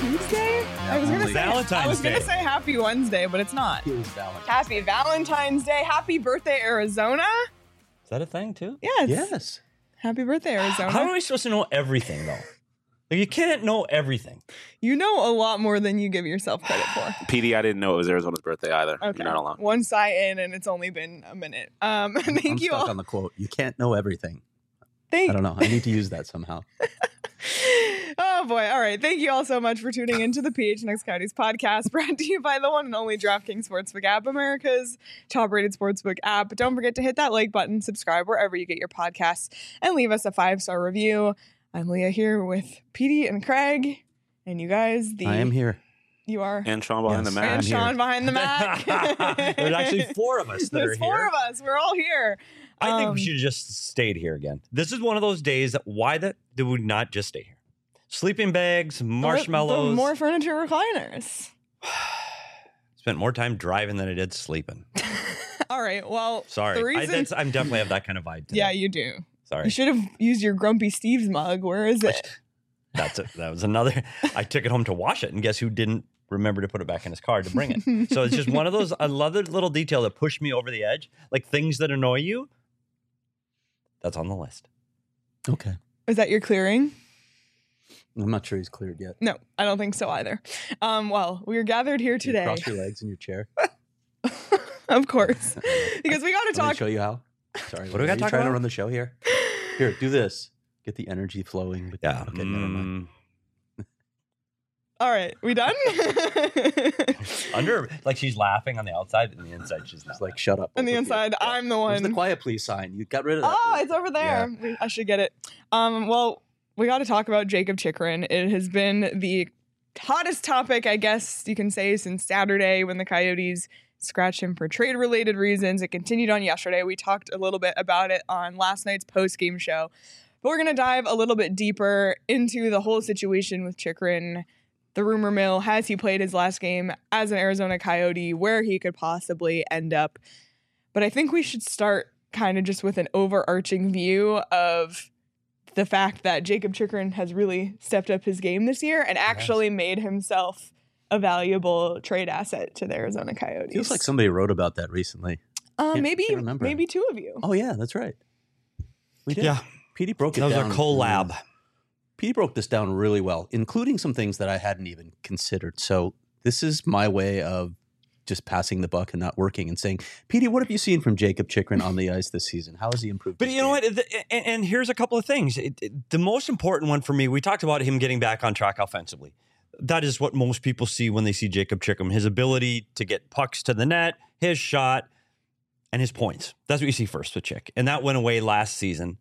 Tuesday? I was going to say happy Wednesday, but it's not. It was Valentine's. Happy Valentine's Day. Happy birthday, Arizona. Is that a thing too? Yes. Happy birthday, Arizona. How are we supposed to know everything though? Like, you can't know everything. You know a lot more than you give yourself credit for. PD, I didn't know it was Arizona's birthday either. Okay. You're not alone. One sigh in, and it's only been a minute. I'm Thank you stuck all. on the quote. You can't know everything. I don't know. I need to use that somehow. Oh boy. All right. Thank you all so much for tuning into the PHNX Coyotes podcast, brought to you by the one and only DraftKings Sportsbook app, America's top rated sportsbook app. Don't forget to hit that like button, subscribe wherever you get your podcasts, and leave us a 5-star review. I'm Leah here with Petey and Craig, and you guys, I am here. You are. And Sean behind the Mac. And Sean behind the Mac. There's actually 4 of us that are There's here. 4 of us. We're all here. I think we should have just stayed here again. This is one of those days that did we not just stay here? Sleeping bags, marshmallows. More furniture recliners. Spent more time driving than I did sleeping. All right. Well, Sorry. The reason, I'm definitely have that kind of vibe today. yeah, you do. Sorry. You should have used your Grumpy Steve's mug. Where is it? That's it. That was another. I took it home to wash it, and guess who didn't remember to put it back in his car to bring it? So it's just one of those. I love the little detail that pushed me over the edge, like things that annoy you. That's on the list. Okay. Is that your clearing? I'm not sure he's cleared yet. No, I don't think so either. Well, we are gathered here Can you today. cross your legs in your chair. Of course. Because we got to Let me talk. show you how. Sorry. What do we got to Are you talk trying to about? run the show here? Here, do this. Get the energy flowing. Yeah. Okay, never mind. All right. We done? Under, like she's laughing on the outside, and the inside she's not. It's like, shut up. On the over inside, here. I'm the Where's one. the quiet please sign? You got rid of that. Oh, it's over there. I should get it. Well, we got to talk about Jakob Chychrun. It has been the hottest topic, I guess you can say, since Saturday when the Coyotes scratched him for trade-related reasons. It continued on yesterday. We talked a little bit about it on last night's post-game show. But we're going to dive a little bit deeper into the whole situation with Chychrun, the rumor mill. Has he played his last game as an Arizona Coyote, where he could possibly end up? But I think we should start kind of just with an overarching view of the fact that Jakob Chychrun has really stepped up his game this year and actually made himself a valuable trade asset to the Arizona Coyotes. Feels like somebody wrote about that recently. Maybe remember. 2 of you. Oh, yeah, that's right. We did. Yeah. Petey broke it That was down. our collab. Petey broke this down really well, including some things that I hadn't even considered. So this is my way of just passing the buck and not working and saying, Petey, what have you seen from Jakob Chychrun on the ice this season? How has he improved? But his you know game? what? And here's a couple of things. The most important one for me, we talked about him getting back on track offensively. That is what most people see when they see Jakob Chychrun, his ability to get pucks to the net, his shot, and his points. That's what you see first with Chick. And that went away last season.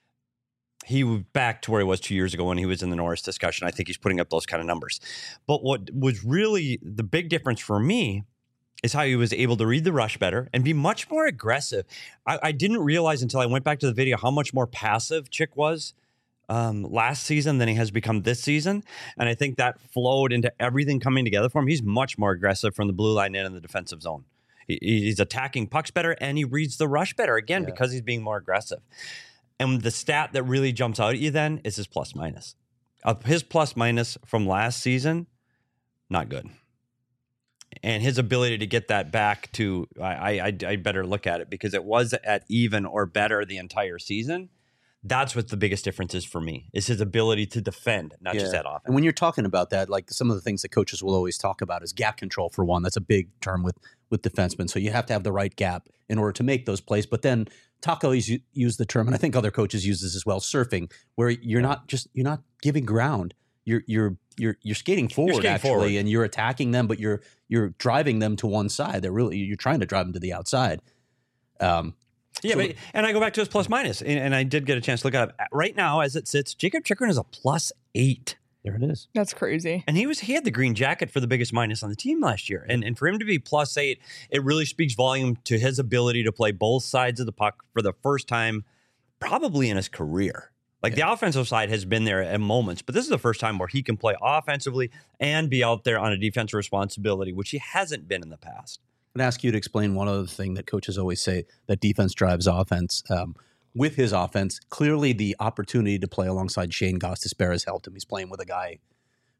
He was back to where he was 2 years ago when he was in the Norris discussion. I think he's putting up those kind of numbers. But what was really the big difference for me is how he was able to read the rush better and be much more aggressive. I didn't realize until I went back to the video how much more passive Chick was last season than he has become this season. And I think that flowed into everything coming together for him. He's much more aggressive from the blue line in the defensive zone. He's attacking pucks better and he reads the rush better, again, because he's being more aggressive. And the stat that really jumps out at you then is his plus minus. His plus minus from last season, not good. And his ability to get that back to, I better look at it because it was at even or better the entire season. That's what the biggest difference is for me, is his ability to defend, not just that offense. And when you're talking about that, like some of the things that coaches will always talk about is gap control, for one. That's a big term with defensemen. So you have to have the right gap in order to make those plays. But then Taco used the term, and I think other coaches use this as well, surfing, where you're not giving ground. You're skating forward, actually, and you're attacking them, but you're driving them to one side. You're trying to drive them to the outside. And I go back to his plus minus, and I did get a chance to look at it. Right now, as it sits, Jakob Chychrun is a +8. There it is. That's crazy. And he had the green jacket for the biggest minus on the team last year. And for him to be +8, it really speaks volume to his ability to play both sides of the puck for the first time probably in his career. Like the offensive side has been there at moments, but this is the first time where he can play offensively and be out there on a defensive responsibility, which he hasn't been in the past. I'm going to ask you to explain one other thing that coaches always say, that defense drives offense. With his offense, clearly the opportunity to play alongside Shane Gostisbehere has helped him. He's playing with a guy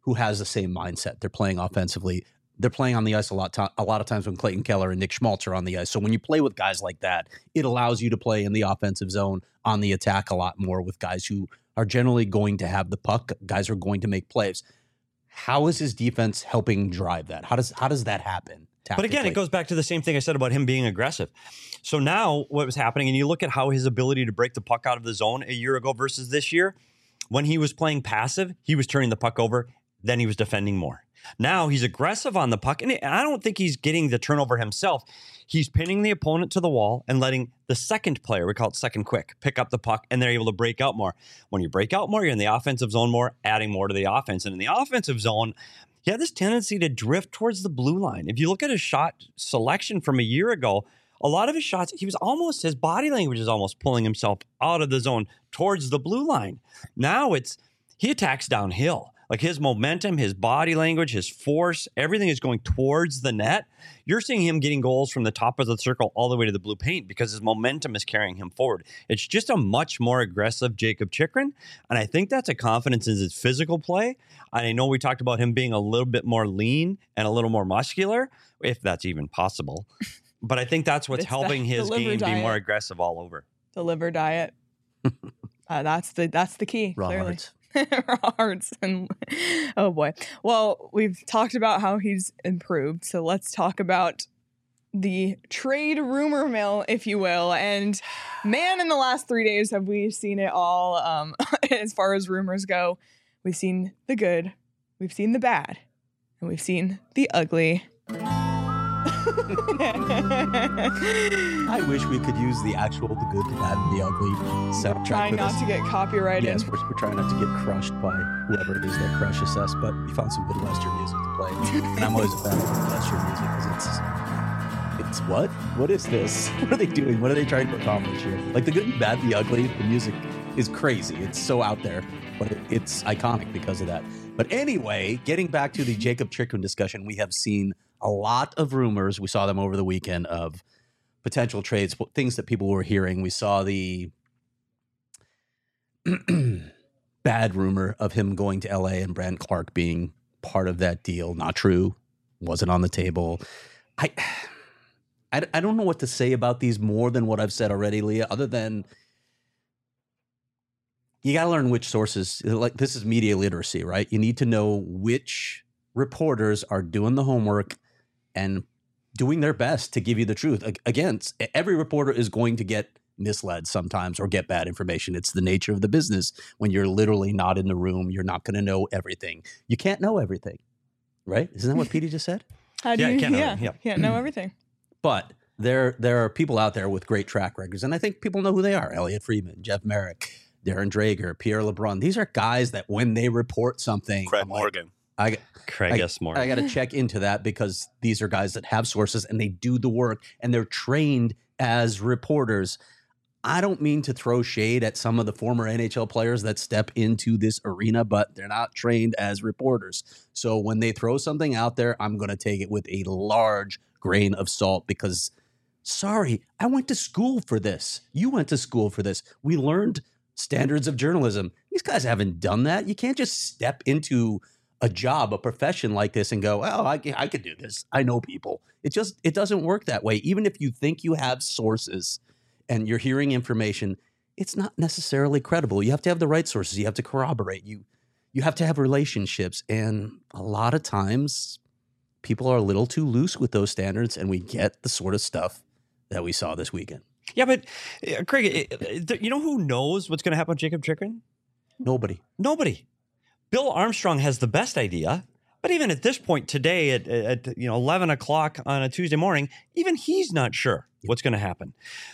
who has the same mindset. They're playing offensively. They're playing on the ice a lot of times when Clayton Keller and Nick Schmaltz are on the ice. So when you play with guys like that, it allows you to play in the offensive zone on the attack a lot more with guys who are generally going to have the puck. Guys are going to make plays. How is his defense helping drive that? How does that happen? But again, it goes back to the same thing I said about him being aggressive. So now what was happening, and you look at how his ability to break the puck out of the zone a year ago versus this year, when he was playing passive, he was turning the puck over, then he was defending more. Now he's aggressive on the puck, and I don't think he's getting the turnover himself. He's pinning the opponent to the wall and letting the second player, we call it second quick, pick up the puck, and they're able to break out more. When you break out more, you're in the offensive zone more, adding more to the offense. And in the offensive zone, he had this tendency to drift towards the blue line. If you look at his shot selection from a year ago, a lot of his shots, his body language is almost pulling himself out of the zone towards the blue line. Now he attacks downhill. Like his momentum, his body language, his force, everything is going towards the net. You're seeing him getting goals from the top of the circle all the way to the blue paint because his momentum is carrying him forward. It's just a much more aggressive Jacob Chychrun. And I think that's a confidence in his physical play. And I know we talked about him being a little bit more lean and a little more muscular, if that's even possible. But I think that's what's helping his game be more aggressive all over. The liver diet. That's the key. Raw clearly. hearts. Raw hearts. And oh boy. Well, we've talked about how he's improved. So let's talk about the trade rumor mill, if you will. And man, in the last 3 days, have we seen it all as far as rumors go. We've seen the good, we've seen the bad, and we've seen the ugly. I wish we could use the actual, the good, the bad, and the ugly soundtrack. Trying not to get copyrighted. Yes, we're trying not to get crushed by whoever it is that crushes us, but we found some good Western music to play. And I'm always a fan of Western music because it's what? What is this? What are they doing? What are they trying to accomplish here? Like the good and bad, the ugly, the music is crazy. It's so out there, but it's iconic because of that. But anyway, getting back to the Jacob Chychrun discussion, we have seen a lot of rumors. We saw them over the weekend of potential trades, things that people were hearing. We saw the bad rumor of him going to LA and Brant Clark being part of that deal. Not true. Wasn't on the table. I don't know what to say about these more than what I've said already, Leah, other than you got to learn which sources. Like, this is media literacy, right? You need to know which reporters are doing the homework and doing their best to give you the truth. Again, every reporter is going to get misled sometimes or get bad information. It's the nature of the business. When you're literally not in the room, you're not going to know everything. You can't know everything, right? Isn't that what Petey just said? How do you can't know everything. But there are people out there with great track records, and I think people know who they are. Elliot Friedman, Jeff Merrick, Darren Drager, Pierre LeBrun. These are guys that when they report something, Craig Morgan. Craig S. Morgan. I got to check into that because these are guys that have sources and they do the work and they're trained as reporters. I don't mean to throw shade at some of the former NHL players that step into this arena, but they're not trained as reporters. So when they throw something out there, I'm going to take it with a large grain of salt because, sorry, I went to school for this. You went to school for this. We learned standards of journalism. These guys haven't done that. You can't just step into a job, a profession like this and go, oh, I could do this. I know people. It doesn't work that way. Even if you think you have sources and you're hearing information, it's not necessarily credible. You have to have the right sources. You have to corroborate. You have to have relationships. And a lot of times people are a little too loose with those standards and we get the sort of stuff that we saw this weekend. Yeah, but Craig, you know who knows what's going to happen with Jacob Chychrun? Nobody. Bill Armstrong has the best idea, but even at this point today at 11 o'clock on a Tuesday morning, even he's not sure what's going to happen.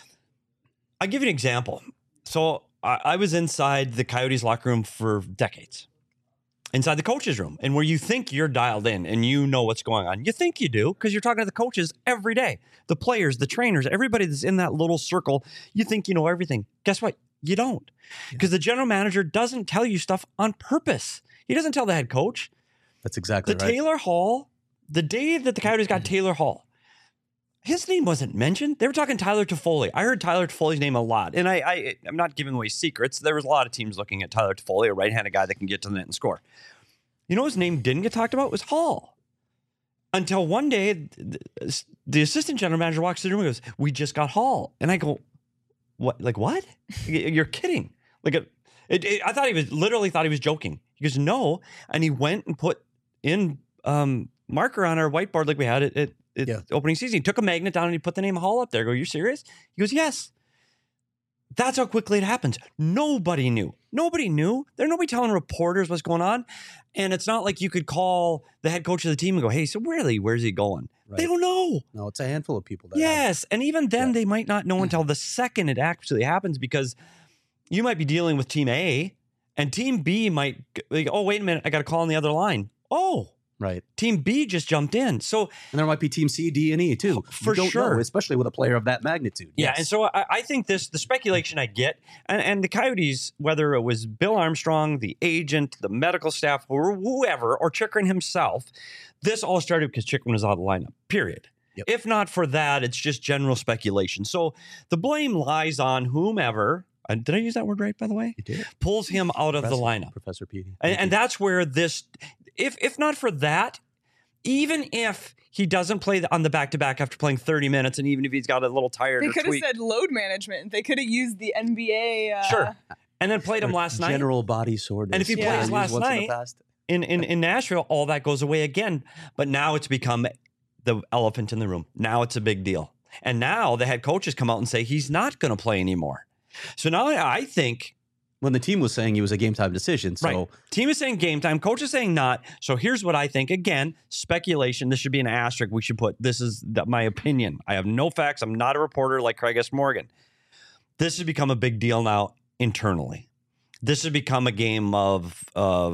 I'll give you an example. So I was inside the Coyotes locker room for decades, inside the coach's room, and where you think you're dialed in and you know what's going on. You think you do because you're talking to the coaches every day, the players, the trainers, everybody that's in that little circle. You think you know everything. Guess what? You don't, because the general manager doesn't tell you stuff on purpose. He doesn't tell the head coach. That's exactly right. Taylor Hall, the day that the Coyotes got Taylor Hall, his name wasn't mentioned. They were talking Tyler Toffoli. I heard Tyler Toffoli's name a lot. And I'm not giving away secrets. There was a lot of teams looking at Tyler Toffoli, a right-handed guy that can get to the net and score. You know his name didn't get talked about was Hall. Until one day, the assistant general manager walks in the room and goes, "We just got Hall." And I go, "What? Like what? You're kidding." Like I thought he was joking. He goes, "No." And he went and put in marker on our whiteboard like we had at opening season. He took a magnet down and he put the name Hall up there. I go, "You serious?" He goes, "Yes." That's how quickly it happens. Nobody knew. Nobody knew. There's nobody telling reporters what's going on. And it's not like you could call the head coach of the team and go, "Hey, so really, where's he going?" Right. They don't know. No, it's a handful of people. That Yes. And even then, they might not know until the second it actually happens, because you might be dealing with team A and team B might, like, "Oh, wait a minute, I got a call on the other line." Oh, Right. team B just jumped in. So, And there might be team C, D, and E too. For You don't sure. know, especially with a player of that magnitude. yeah. Yes. And so I think the speculation I get, and the Coyotes, whether it was Bill Armstrong, the agent, the medical staff, or whoever, or Chychrun himself, this all started because Chychrun was out of the lineup, period. Yep. If not for that, it's just general speculation. So the blame lies on whomever, did I use that word right, by the way? You did. Pulls him out of the lineup. Professor Petey. And that's where this, if not for that, even if he doesn't play on the back-to-back after playing 30 minutes, and even if he's got a little tired They or could have tweaked, said load management. They could have used the NBA. sure, and then played him last night General body soreness. And if he plays last night- in Nashville, all that goes away again. But now it's become the elephant in the room. Now it's a big deal. And now the head coaches come out and say he's not going to play anymore. So now I think, when the team was saying he was a game time decision. So right, team is saying game time, coach is saying not. So here's what I think. Again, speculation. This should be an asterisk. We should put, this is my opinion. I have no facts. I'm not a reporter like Craig S. Morgan. This has become a big deal now internally. This has become a game of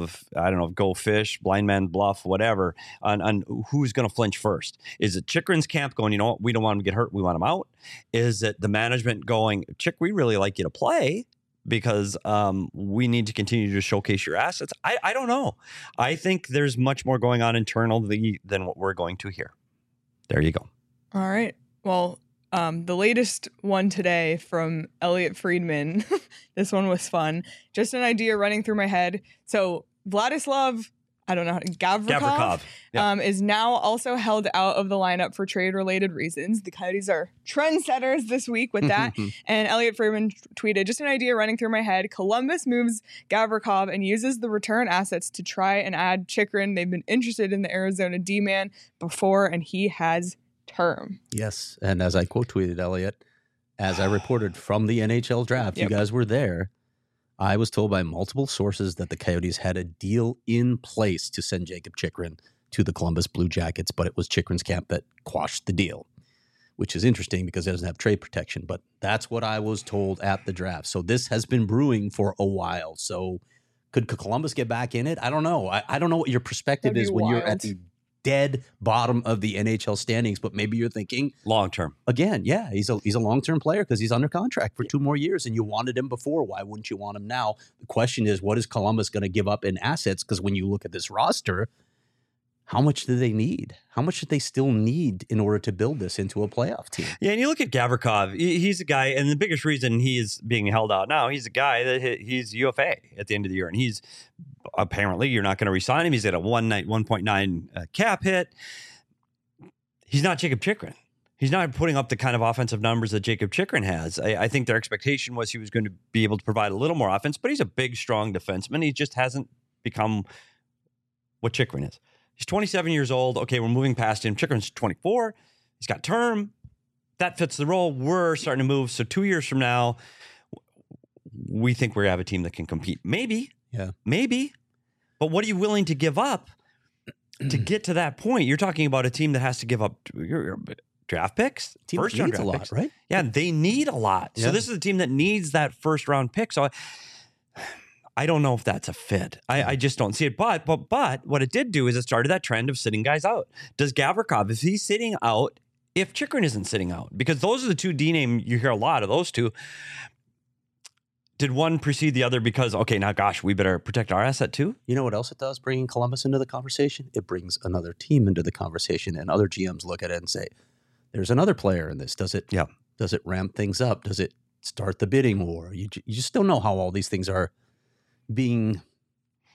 I don't know, go fish, blind man bluff, whatever, on who's going to flinch first. Is it Chychrun's camp going, "You know what, we don't want him to get hurt, we want him out"? Is it the management going, "Chick, we really like you to play because we need to continue to showcase your assets"? I don't know. I think there's much more going on internally than what we're going to hear. There you go. All right. Well, the latest one today from Elliot Friedman. This one was fun. Just an idea running through my head. So Vladislav, I don't know, Gavrikov. Yeah. Is now also held out of the lineup for trade-related reasons. The Coyotes are trendsetters this week with that. And Elliot Friedman tweeted, "Just an idea running through my head. Columbus moves Gavrikov and uses the return assets to try and add Chychrun. They've been interested in the Arizona D-man before, and he has term." yes, and as I quote tweeted Elliot, as I reported from the NHL draft, Yep. you guys were there. I was told by multiple sources that the Coyotes had a deal in place to send Jacob Chychrun to the Columbus Blue Jackets, but it was Chychrun's camp that quashed the deal, which is interesting because it doesn't have trade protection. But that's what I was told at the draft. So this has been brewing for a while. So could Columbus get back in it? I don't know. I don't know what your perspective That'd is be when you're wild. at the dead bottom of the NHL standings, but maybe you're thinking, Long term. again, yeah, he's a long-term player because he's under contract for 2 more years, and you wanted him before. Why wouldn't you want him now? The question is, what is Columbus going to give up in assets? Because when you look at this roster, how much do they need? How much do they still need in order to build this into a playoff team? Yeah, and you look at Gavrikov, he's a guy, and the biggest reason he is being held out now, he's a guy that he's UFA at the end of the year, and he's apparently, you're not going to re-sign him. He's at a 1.9 cap hit. He's not Jacob Chychrun. He's not putting up the kind of offensive numbers that Jacob Chychrun has. I think their expectation was he was going to be able to provide a little more offense, but he's a big, strong defenseman. He just hasn't become what Chychrun is. He's 27 years old. Okay, we're moving past him. Chychrun's 24. He's got term. That fits the role. We're starting to move. So 2 years from now, we think we have a team that can compete. Maybe. Yeah. Maybe. But what are you willing to give up to get to that point? You're talking about a team that has to give up your draft picks, Team first round needs a draft lot, picks. right? Yeah, they need a lot. Yeah. So this is a team that needs that first round pick. So I don't know if that's a fit. I just don't see it. But what it did do is it started that trend of sitting guys out. Does Gavrikov, if he's sitting out, if Chychrun isn't sitting out, because those are the two D name, you hear a lot of those two. Did one precede the other because, okay, now gosh, we better protect our asset too? You know what else it does, bringing Columbus into the conversation? It brings another team into the conversation, and other GMs look at it and say, there's another player in this. Does it ramp things up? Does it start the bidding war? You just don't know how all these things are being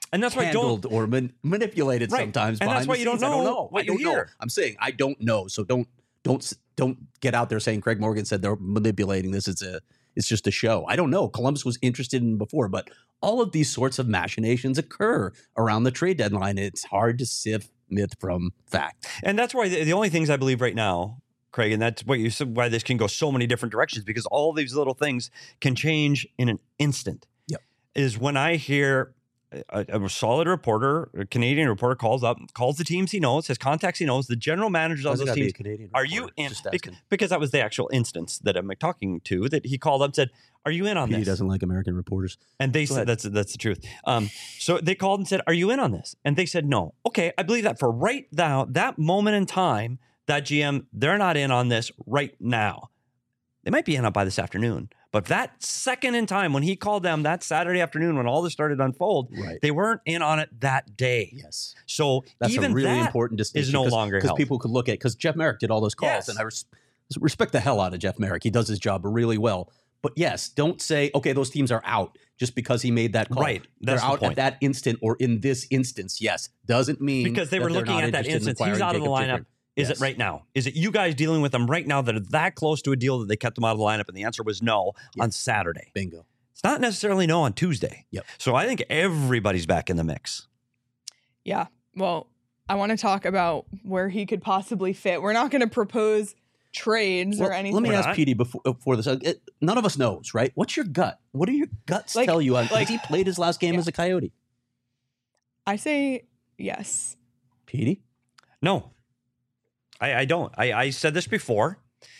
And that's why I don't. handled or manipulated Right. sometimes. And that's behind why the you don't scenes. I don't know know. what I don't you know. hear. I'm saying I don't know. So don't get out there saying Craig Morgan said they're manipulating this. It's just a show. I don't know. Columbus was interested in before, but all of these sorts of machinations occur around the trade deadline. It's hard to sift myth from fact. And that's why the only things I believe right now, Craig, and that's what you said, why this can go so many different directions, because all these little things can change in an instant. Yep. Is when I hear a solid reporter, a Canadian reporter calls the teams he knows, his contacts he knows, the general managers of those teams. Are you in? Because that was the actual instance that I'm talking to, that he called up and said, "Are you in on He this?" doesn't like American reporters. And they said, that's the truth. So they called and said, "Are you in on this?" And they said, "No." Okay, I believe that for right now, that moment in time, that GM, they're not in on this right now. They might be in on by this afternoon. But that second in time, when he called them that Saturday afternoon, when all this started to unfold, Right. they weren't in on it that day. Yes. So That's even a really that important distinction. is no longer because held. people could look at, because Jeff Merrick did all those calls, Yes. and I respect the hell out of Jeff Merrick. He does his job really well. But yes, don't say, okay, those teams are out just because he made that call. Right. That's They're the out point. at that instant or in this instance. Yes. Doesn't mean Because they that were they're looking not at that interested in instance. He's acquiring out of the Jacob lineup. Chikrin. Is Yes. it right now? Is it you guys dealing with them right now that are that close to a deal that they kept them out of the lineup? And the answer was no on Saturday. Bingo. It's not necessarily no on Tuesday. Yep. So I think everybody's back in the mix. Yeah. Well, I want to talk about where he could possibly fit. We're not going to propose trades or anything. Let me We're ask not. Petey before this. None of us knows, right? What's your gut? What do your guts tell you? Has he played his last game Yeah. as a Coyote? I say yes. Petey? No, I don't. I said this before.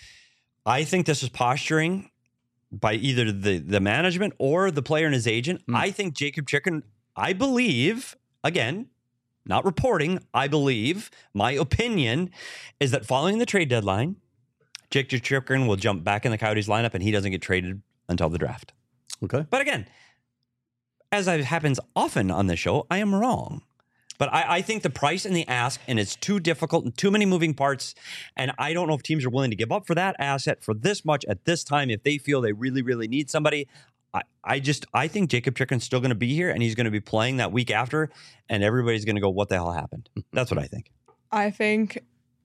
I think this is posturing by either the management or the player and his agent. I think Jacob Chikrin, I believe, again, not reporting, I believe, my opinion is that following the trade deadline, Jacob Chikrin will jump back in the Coyotes lineup and he doesn't get traded until the draft. Okay. But again, as happens often on this show, I am wrong. But I think the price and the ask, and it's too difficult and too many moving parts. And I don't know if teams are willing to give up for that asset for this much at this time if they feel they really, really need somebody. I think Jacob Chikrin's still going to be here and he's going to be playing that week after, and everybody's going to go, what the hell happened? That's what I think. I think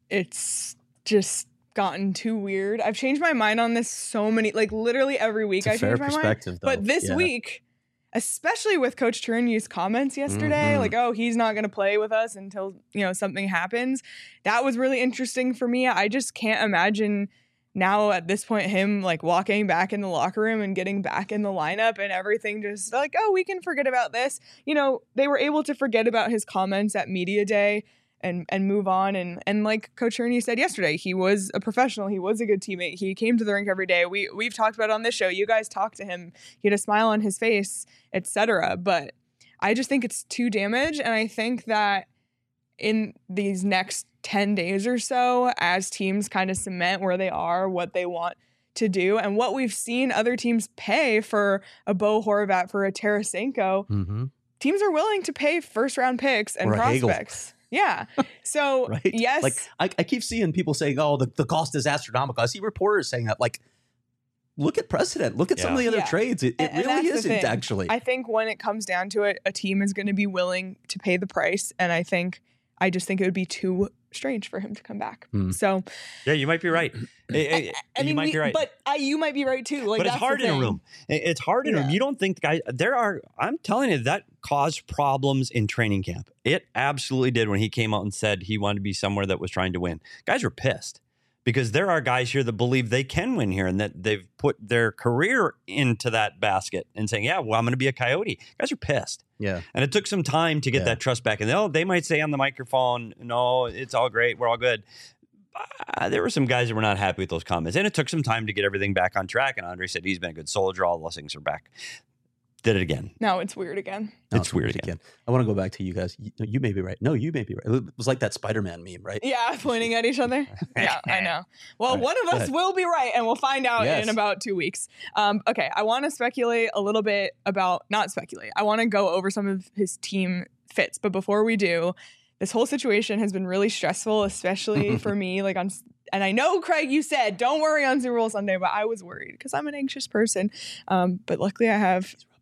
it's just gotten too weird. I've changed my mind on this so many, like literally every week I It's a fair change my mind. perspective, though. But this Yeah. week, especially with Coach Tourigny's comments yesterday, like, oh, he's not going to play with us until, something happens. That was really interesting for me. I just can't imagine now at this point him like walking back in the locker room and getting back in the lineup and everything just like, oh, we can forget about this. They were able to forget about his comments at media day and move on. And like Coach Tourigny said yesterday, he was a professional. He was a good teammate. He came to the rink every day. We've talked about it on this show. You guys talked to him. He had a smile on his face, etc. But I just think it's too damaged. And I think that in these next 10 days or so, as teams kind of cement where they are, what they want to do, and what we've seen other teams pay for a Bo Horvat, for a Tarasenko, teams are willing to pay first-round picks and Or a Hagel. prospects. Yeah. So, Right? yes. Like I keep seeing people saying, "Oh, the cost is astronomical." I see reporters saying that. Like, look at precedent. Look at some of the other Yeah. trades. It And really that's the isn't thing. actually. I think when it comes down to it, a team is going to be willing to pay the price. And I just think it would be too strange for him to come back. So, Yeah, you might be right. I mean, you might be right. But you might be right too. Like, But it's that's the hard in a thing. room. It's hard in a room. Yeah. You don't think guys, I'm telling you, that caused problems in training camp. It absolutely did when he came out and said he wanted to be somewhere that was trying to win. Guys were pissed because there are guys here that believe they can win here and that they've put their career into that basket and saying, yeah, well, I'm going to be a Coyote. Guys are pissed. Yeah. And it took some time to get Yeah. that trust back. And they might say on the microphone, no, it's all great. We're all good. There were some guys that were not happy with those comments. And it took some time to get everything back on track. And Andre said he's been a good soldier. All those things are back. Did it again. Now it's weird again. No, It's weird again. I want to go back to you guys. You may be right. No, you may be right. It was like that Spider-Man meme, right? Yeah, pointing at each other. Yeah, I know. Well, All right, one of go us ahead. will be right, and we'll find out Yes. in about 2 weeks. Okay, I want to speculate a little bit about, not speculate, I want to go over some of his team fits. But before we do, this whole situation has been really stressful, especially for me. And I know, Craig, you said, don't worry on Super Bowl Sunday, but I was worried because I'm an anxious person. But luckily I have He's rubbing off on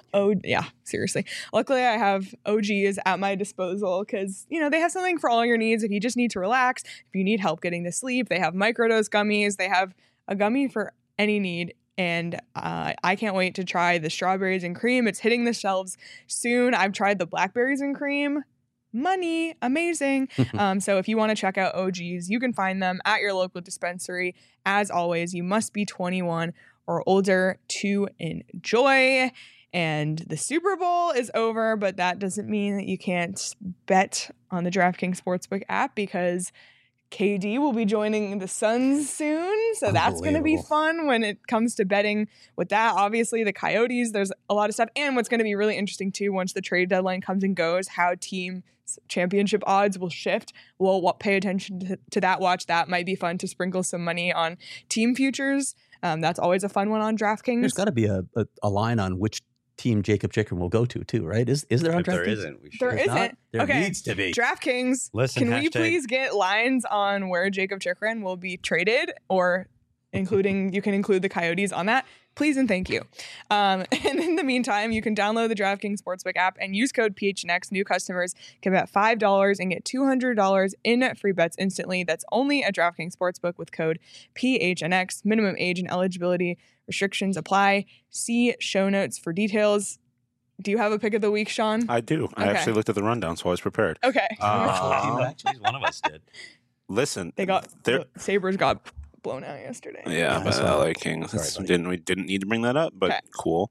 Oh, yeah, seriously. Luckily, I have OGs at my disposal because, they have something for all your needs. If you just need to relax, if you need help getting to sleep, they have microdose gummies. They have a gummy for any need. And I can't wait to try the strawberries and cream. It's hitting the shelves soon. I've tried the blackberries and cream. Money, amazing. So if you want to check out OGs, you can find them at your local dispensary. As always, you must be 21 or older to enjoy. And the Super Bowl is over, but that doesn't mean that you can't bet on the DraftKings Sportsbook app because KD will be joining the Suns soon. So that's going to be fun when it comes to betting with that. Obviously, the Coyotes, there's a lot of stuff. And what's going to be really interesting too, once the trade deadline comes and goes, how team championship odds will shift. We'll pay attention to that. Watch that. Might be fun to sprinkle some money on team futures. That's always a fun one on DraftKings. There's got to be a line on which team Jacob Chikrin will go to too, right? Is there on DraftKings? There isn't. We should. There isn't. There Okay. needs to be. DraftKings, Listen, can we hashtag- please get lines on where Jacob Chikrin will be traded, or you can include the Coyotes on that? Please and thank you. And in the meantime, you can download the DraftKings Sportsbook app and use code PHNX. New customers can bet $5 and get $200 in free bets instantly. That's only at DraftKings Sportsbook with code PHNX. Minimum age and eligibility restrictions apply. See show notes for details. Do you have a pick of the week, Sean? I do. I Okay. actually looked at the rundown, so I was prepared. Okay. Actually, one of us did. Listen, the Sabres got blown out yesterday. Yeah, by the LA Kings. Sorry, buddy. We didn't need to bring that up, but Okay. cool.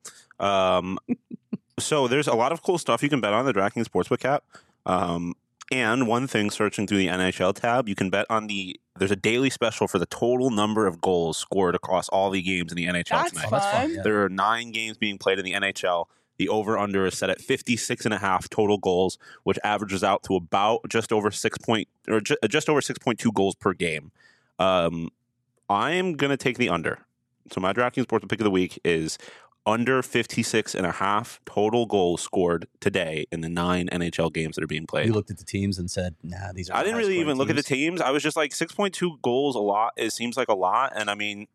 So there's a lot of cool stuff you can bet on the DraftKings Sportsbook app. And one thing, searching through the NHL tab, you can bet on there's a daily special for the total number of goals scored across all the games in the NHL That's tonight. fun. That's fun. Yeah. There are 9 games being played in the NHL. The over/under is set at 56.5 total goals, which averages out to about just over 6.2 goals per game. I'm gonna take the under. So my DraftKings Sportsbook pick of the week is under 56.5 total goals scored today in the 9 NHL games that are being played. You looked at the teams and said, "Nah, these are." I didn't really even look at the teams. I was just like 6.2 goals a lot. It seems like a lot, and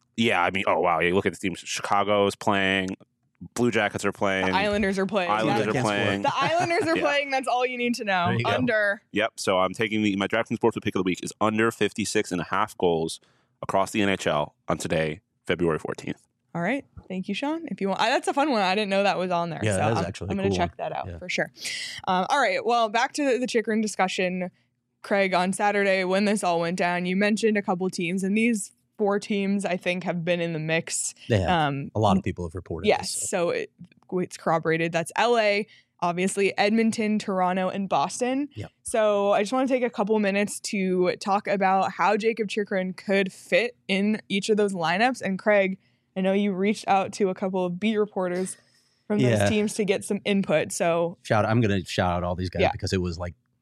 oh wow, you look at the teams. Chicago is playing. Blue Jackets are playing. The Islanders are playing. Islanders Yeah. are playing. The Islanders are Yeah. playing. That's all you need to know. There you go. Under. Yep. So I'm taking my DraftKings Sportsbook pick of the week is under 56.5 goals across the NHL on today, February 14th. All right. Thank you, Sean. If you want, that's a fun one. I didn't know that was on there. Yeah, so that is I'm actually a going to cool check one. that out Yeah. for sure. All right. Well, back to the Chikrin discussion. Craig, on Saturday when this all went down, you mentioned a couple teams, and these 4 teams I think have been in the mix. They have. A lot of people have reported. Yes. This, So it's corroborated. That's LA, obviously Edmonton, Toronto, and Boston. Yep. So I just want to take a couple minutes to talk about how Jacob Chikrin could fit in each of those lineups. And Craig, I know you reached out to a couple of beat reporters from those Yeah. teams to get some input. So I'm going to shout out all these guys Yeah. because it was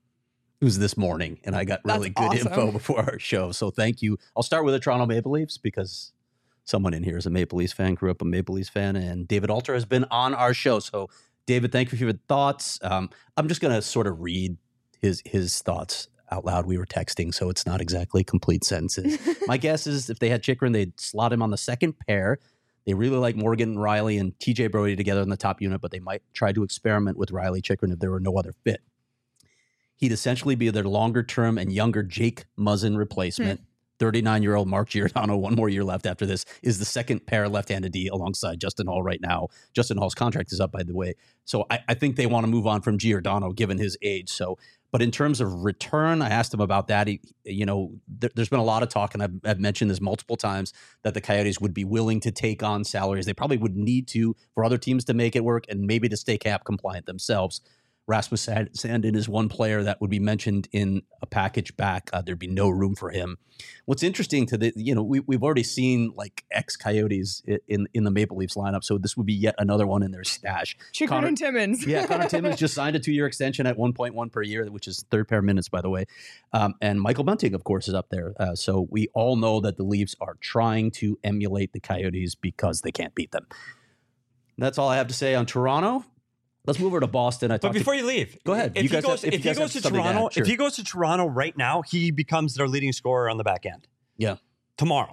this morning, and I got really That's good info awesome. before our show. So thank you. I'll start with the Toronto Maple Leafs because someone in here is a Maple Leafs fan, grew up a Maple Leafs fan, and David Alter has been on our show. So David, thank you for your thoughts. I'm just going to sort of read his thoughts out loud. We were texting, so it's not exactly complete sentences. My guess is if they had Chikrin, they'd slot him on the second pair. They really like Morgan and Riley and TJ Brody together in the top unit, but they might try to experiment with Riley Chikrin if there were no other fit. He'd essentially be their longer-term and younger Jake Muzzin replacement. 39-year-old Mark Giordano, one more year left after this, is the second pair left-handed D alongside Justin Hall right now. Justin Hall's contract is up, by the way. So I think they want to move on from Giordano given his age. But in terms of return, I asked him about that. There's been a lot of talk, and I've mentioned this multiple times, that the Coyotes would be willing to take on salaries. They probably would need to for other teams to make it work and maybe to stay cap compliant themselves. Rasmus Sandin is one player that would be mentioned in a package back. There'd be no room for him. What's interesting we've already seen like ex-Coyotes in the Maple Leafs lineup, so this would be yet another one in their stash. Chikrin and Timmins. Yeah, Connor Timmins just signed a 2-year extension at 1.1 per year, which is third pair minutes, by the way. And Michael Bunting, of course, is up there. So we all know that the Leafs are trying to emulate the Coyotes because they can't beat them. That's all I have to say on Toronto. Let's move over to Boston. But before you leave, Go ahead. If You he guys goes, have- if if you he guys goes have to something to Toronto, add, sure. if he goes to Toronto right now, he becomes their leading scorer on the back end. Yeah. Tomorrow.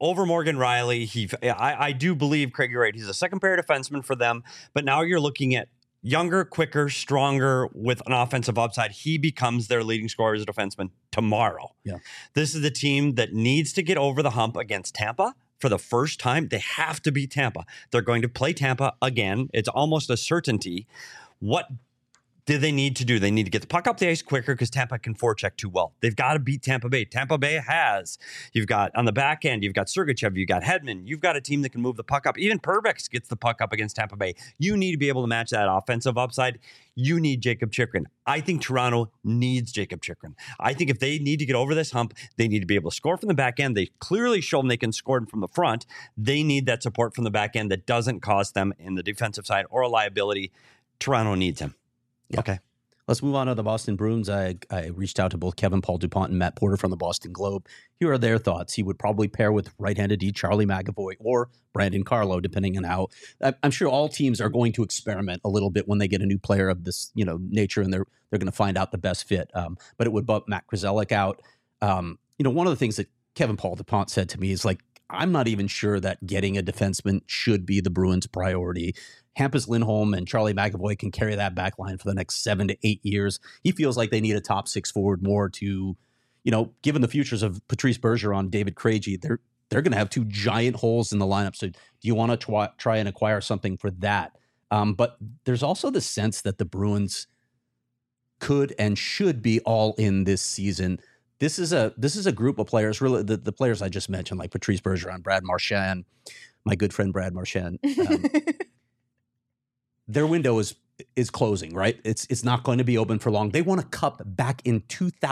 over Morgan Riley. I do believe, Craig, you're right. He's a second pair defenseman for them. But now you're looking at younger, quicker, stronger with an offensive upside. He becomes their leading scorer as a defenseman tomorrow. Yeah. This is the team that needs to get over the hump against Tampa. For the first time, they have to beat Tampa. They're going to play Tampa again. It's almost a certainty. What do they need to do? They need to get the puck up the ice quicker because Tampa can forecheck too well. They've got to beat Tampa Bay. Tampa Bay has. You've got on the back end, you've got Sergachev, you've got Hedman. You've got a team that can move the puck up. Even Perbix gets the puck up against Tampa Bay. You need to be able to match that offensive upside. You need Jacob Chychrun. I think Toronto needs Jacob Chychrun. I think if they need to get over this hump, they need to be able to score from the back end. They clearly show them they can score from the front. They need that support from the back end that doesn't cost them in the defensive side or a liability. Toronto needs him. Yeah. Okay. Let's move on to the Boston Bruins. I reached out to both Kevin Paul DuPont and Matt Porter from the Boston Globe. Here are their thoughts. He would probably pair with right-handed D Charlie McAvoy or Brandon Carlo, depending on how. I'm sure all teams are going to experiment a little bit when they get a new player of this, nature, and they're going to find out the best fit. But it would bump Matt Grzelcyk out. One of the things that Kevin Paul DuPont said to me is like, I'm not even sure that getting a defenseman should be the Bruins' priority. Hampus Lindholm and Charlie McAvoy can carry that back line for the next 7 to 8 years. He feels like they need a top six forward more to, given the futures of Patrice Bergeron, David Krejci, they're going to have two giant holes in the lineup. So do you want to try and acquire something for that? But there's also the sense that the Bruins could and should be all in this season. This is a group of players, really the players I just mentioned, like Patrice Bergeron, Brad Marchand, my good friend Brad Marchand. Their window is closing, right? It's not going to be open for long. They won a cup back in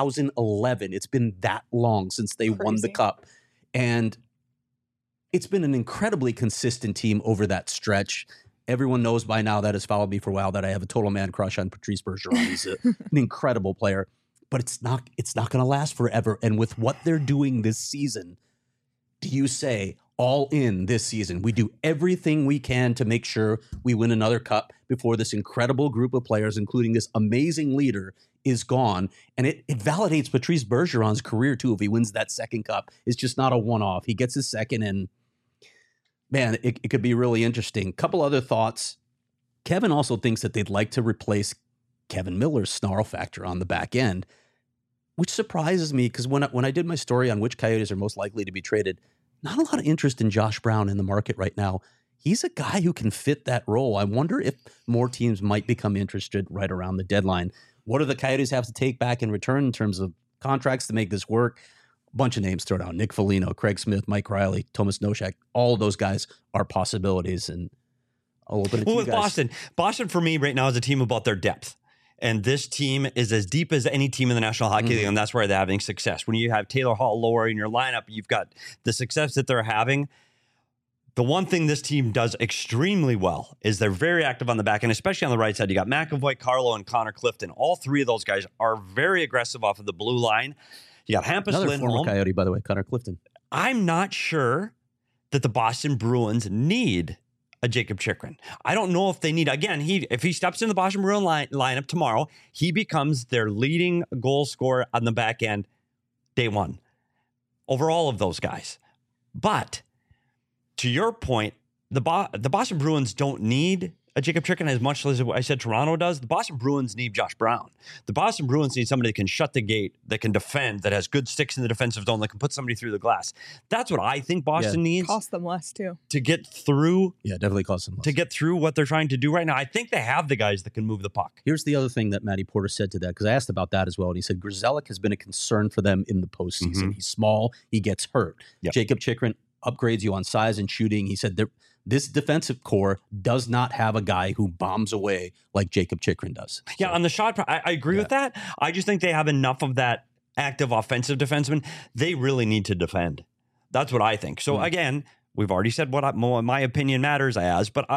2011. It's been that long since they won the cup. And it's been an incredibly consistent team over that stretch. Everyone knows by now that has followed me for a while that I have a total man crush on Patrice Bergeron. He's an incredible player, but it's not going to last forever. And with what they're doing this season, do you say all in this season? We do everything we can to make sure we win another cup before this incredible group of players, including this amazing leader, is gone. And it validates Patrice Bergeron's career, too, if he wins that second cup. It's just not a one-off. He gets his second, and, man, it could be really interesting. Couple other thoughts. Kevin also thinks that they'd like to replace Kevin Miller's snarl factor on the back end, which surprises me because when I did my story on which Coyotes are most likely to be traded, not a lot of interest in Josh Brown in the market right now. He's a guy who can fit that role. I wonder if more teams might become interested right around the deadline. What do the Coyotes have to take back in return in terms of contracts to make this work? A bunch of names thrown out. Nick Foligno, Craig Smith, Mike Riley, Thomas Nosek. All of those guys are possibilities. And I'll open it to you guys. Boston for me right now is a team about their depth. And this team is as deep as any team in the National Hockey League, and that's where they're having success. When you have Taylor Hall lower in your lineup, you've got the success that they're having. The one thing this team does extremely well is they're very active on the back end, especially on the right side. You got McAvoy, Carlo, and Connor Clifton. All three of those guys are very aggressive off of the blue line. You got Hampus Another Lindholm. former Coyote, by the way, Connor Clifton. I'm not sure that the Boston Bruins need a Jacob Chychrun. I don't know if they need, again, if he steps in the Boston Bruins lineup tomorrow, he becomes their leading goal scorer on the back end day one over all of those guys. But to your point, the Boston Bruins don't need a Jacob Chychrun as much as I said Toronto does. The Boston Bruins need Josh Brown. The Boston Bruins need somebody that can shut the gate, that can defend, that has good sticks in the defensive zone, that can put somebody through the glass. That's what I think Boston needs. Cost them less, too. To get through. Yeah, definitely cost them less. To get through what they're trying to do right now. I think they have the guys that can move the puck. Here's the other thing that Matty Porter said to that, because I asked about that as well. And he said Grzelcyk has been a concern for them in the postseason. Mm-hmm. He's small. He gets hurt. Yep. Jacob Chychrun upgrades you on size and shooting. He said this defensive core does not have a guy who bombs away like Jacob Chychrun does. Yeah, So, on the shot, I agree with that. I just think they have enough of that active offensive defenseman. They really need to defend. That's what I think. So again, we've already said what my opinion matters as, but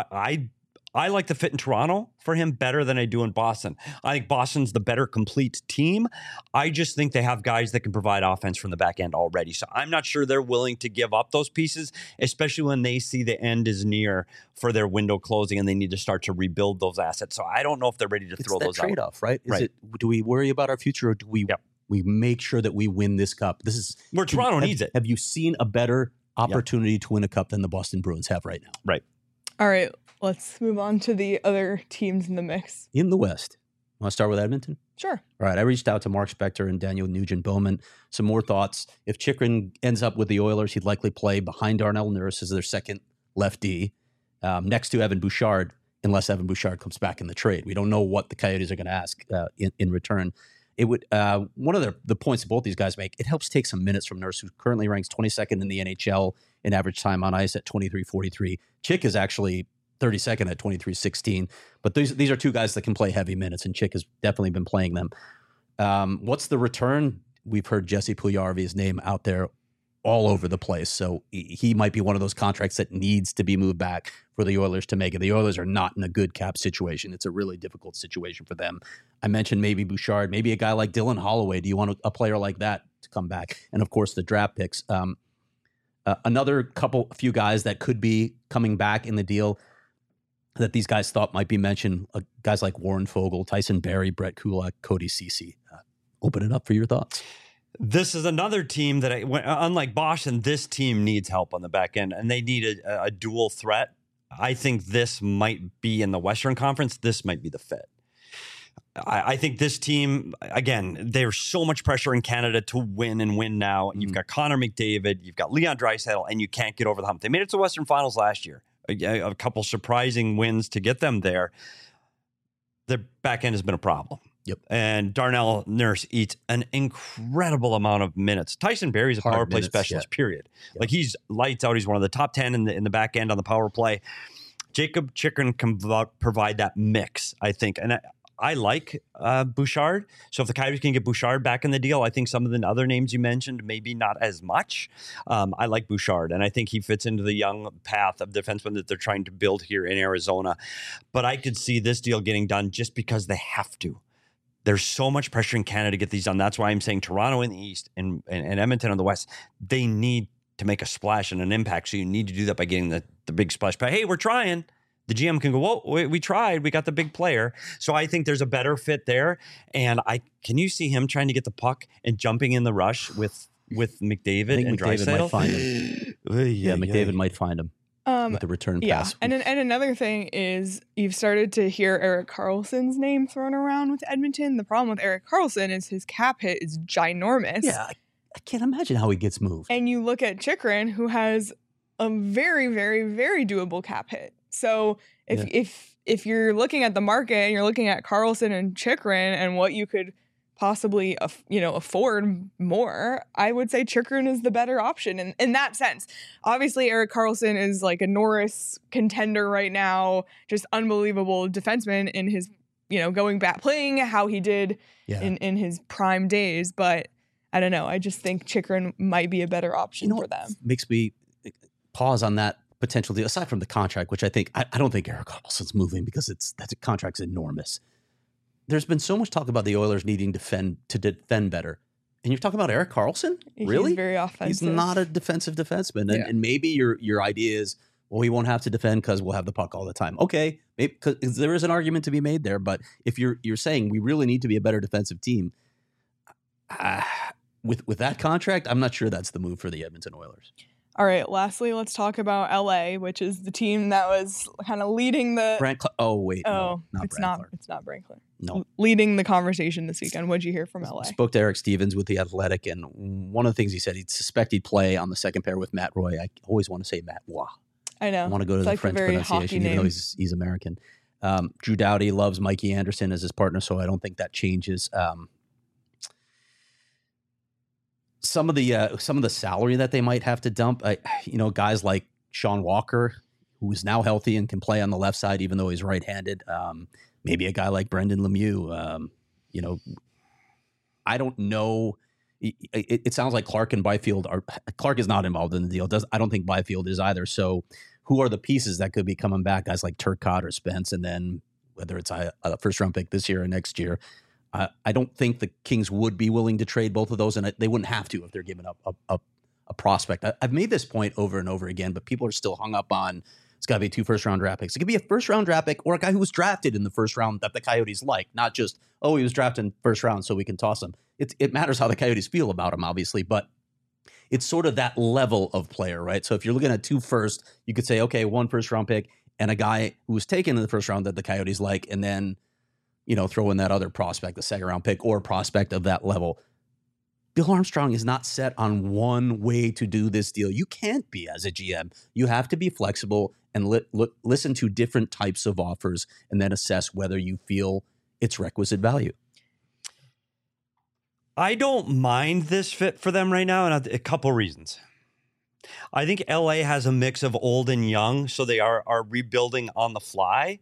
I like the fit in Toronto for him better than I do in Boston. I think Boston's the better complete team. I just think they have guys that can provide offense from the back end already. So I'm not sure they're willing to give up those pieces, especially when they see the end is near for their window closing and they need to start to rebuild those assets. So I don't know if they're ready to throw those out. It's that trade-off, right? Right. Do we worry about our future or do we make sure that we win this cup? This is where Toronto needs it. Have you seen a better opportunity to win a cup than the Boston Bruins have right now. Right. All right, let's move on to the other teams in the mix. In the West, want to start with Edmonton? Sure. All right, I reached out to Mark Spector and Daniel Nugent-Bowman. Some more thoughts. If Chychrun ends up with the Oilers, he'd likely play behind Darnell Nurse as their second lefty, next to Evan Bouchard, unless Evan Bouchard comes back in the trade. We don't know what the Coyotes are going to ask in return. It would one of the points that both these guys make, it helps take some minutes from Nurse, who currently ranks 22nd in the NHL in average time on ice at 23:43. Chick is actually 32nd at 23:16. But these are two guys that can play heavy minutes, and Chick has definitely been playing them. What's the return? We've heard Jesse Puljujarvi's name out there all over the place. So he might be one of those contracts that needs to be moved back for the Oilers to make it. The Oilers are not in a good cap situation. It's a really difficult situation for them. I mentioned maybe Bouchard, maybe a guy like Dylan Holloway. Do you want a player like that to come back? And of course, the draft picks. Another few guys that could be coming back in the deal that these guys thought might be mentioned, guys like Warren Fogle, Tyson Barrie, Brett Kulak, Cody Ceci. Open it up for your thoughts. This is another team that, unlike Boston, this team needs help on the back end, and they need a dual threat. I think this might be in the Western Conference. This might be the fit. I think this team, again, there's so much pressure in Canada to win and win now. And you've got Connor McDavid, you've got Leon Draisaitl, and you can't get over the hump. They made it to the Western Finals last year. A couple surprising wins to get them there. Their back end has been a problem. Yep. And Darnell Nurse eats an incredible amount of minutes. Tyson Barrie's a power play specialist, period. Yep. Like, he's lights out. He's one of the top 10 in the back end on the power play. Jacob Chychrun can provide that mix, I think. And I like Bouchard. So if the Coyotes can get Bouchard back in the deal, I think some of the other names you mentioned, maybe not as much. I like Bouchard, and I think he fits into the young path of defensemen that they're trying to build here in Arizona. But I could see this deal getting done just because they have to. There's so much pressure in Canada to get these done. That's why I'm saying Toronto in the East and Edmonton in the West, they need to make a splash and an impact. So you need to do that by getting the big splash. But hey, we're trying. The GM can go, whoa, we tried. We got the big player. So I think there's a better fit there. And can you see him trying to get the puck and jumping in the rush with McDavid and Draisaitl? Might find him. McDavid might find him. With the return pass. And another thing is you've started to hear Erik Karlsson's name thrown around with Edmonton. The problem with Erik Karlsson is his cap hit is ginormous. Yeah, I can't imagine how he gets moved. And you look at Chychrun, who has a very, very, very doable cap hit. So if you're looking at the market and you're looking at Karlsson and Chychrun and what you could possibly afford more, I would say Chychrun is the better option in that sense. Obviously, Erik Karlsson is like a Norris contender right now, just unbelievable defenseman in his, going back, playing how he did in his prime days. But I don't know. I just think Chychrun might be a better option for them. Makes me pause on that potential deal, aside from the contract, which I don't think Erik Karlsson's moving because that contract's enormous. There's been so much talk about the Oilers needing to defend better. And you're talking about Erik Karlsson? Really? He's very offensive. He's not a defensive defenseman. And maybe your idea is, well, he won't have to defend because we'll have the puck all the time. Okay, maybe, because there is an argument to be made there. But if you're saying we really need to be a better defensive team, with that contract, I'm not sure that's the move for the Edmonton Oilers. All right, lastly, let's talk about LA, which is the team that was kind of leading the... It's not Brant Clark. No. Leading the conversation this weekend. What'd you hear from LA? Spoke to Eric Stevens with The Athletic, and one of the things he said, he'd suspect he'd play on the second pair with Matt Roy. I always want to say Matt Roy. I know. I want to go to the French pronunciation, even though he's American. Drew Doughty loves Mikey Anderson as his partner, so I don't think that changes. Some of the salary that they might have to dump, guys like Sean Walker, who's now healthy and can play on the left side, even though he's right-handed. Maybe a guy like Brendan Lemieux. I don't know. It sounds like Clark and Byfield Clark is not involved in the deal. I don't think Byfield is either. So who are the pieces that could be coming back? Guys like Turcotte or Spence, and then whether it's a first-round pick this year or next year. I don't think the Kings would be willing to trade both of those, and they wouldn't have to if they're giving up a prospect. I've made this point over and over again, but people are still hung up on it's got to be 2 first-round draft picks. It could be a first-round draft pick or a guy who was drafted in the first round that the Coyotes like, not just, he was drafted in first round so we can toss him. It matters how the Coyotes feel about him, obviously, but it's sort of that level of player, right? So if you're looking at 2 first, you could say, okay, 1 first-round pick and a guy who was taken in the first round that the Coyotes like, and then, throw in that other prospect, the second-round pick or prospect of that level. Bill Armstrong is not set on one way to do this deal. You can't be as a GM. You have to be flexible and listen to different types of offers and then assess whether you feel it's requisite value. I don't mind this fit for them right now, and a couple reasons. I think LA has a mix of old and young, so they are rebuilding on the fly.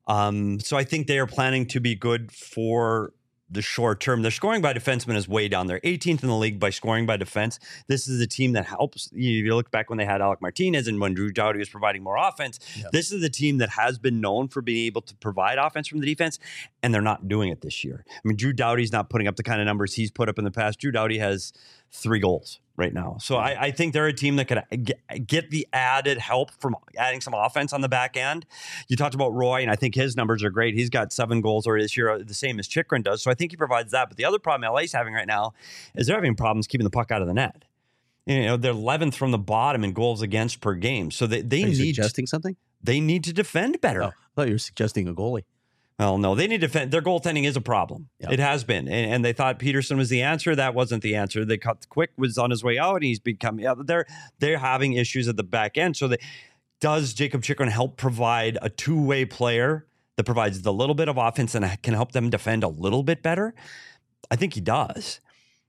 So I think they are planning to be good for the short term. Their scoring by defenseman is way down there, 18th in the league by scoring by defense. This is a team that helps. You look back when they had Alec Martinez and when Drew Doughty was providing more offense. Yep. This is the team that has been known for being able to provide offense from the defense, and they're not doing it this year. I mean, Drew Doughty's not putting up the kind of numbers he's put up in the past. Drew Doughty has 3 goals right now. So I think they're a team that could get the added help from adding some offense on the back end. You talked about Roy, and I think his numbers are great. He's got 7 goals already this year, the same as Chychrun does. So I think he provides that. But the other problem LA's having right now is they're having problems keeping the puck out of the net. They're 11th from the bottom in goals against per game. So they need suggesting something? They need to defend better. Oh, I thought you were suggesting a goalie. Well, no, they need to defend. Their goaltending is a problem. Yep. It has been. And they thought Peterson was the answer. That wasn't the answer. They cut Quick was on his way out, and he's become, they're having issues at the back end. So does Jacob Chychrun help provide a two-way player that provides the little bit of offense and can help them defend a little bit better? I think he does.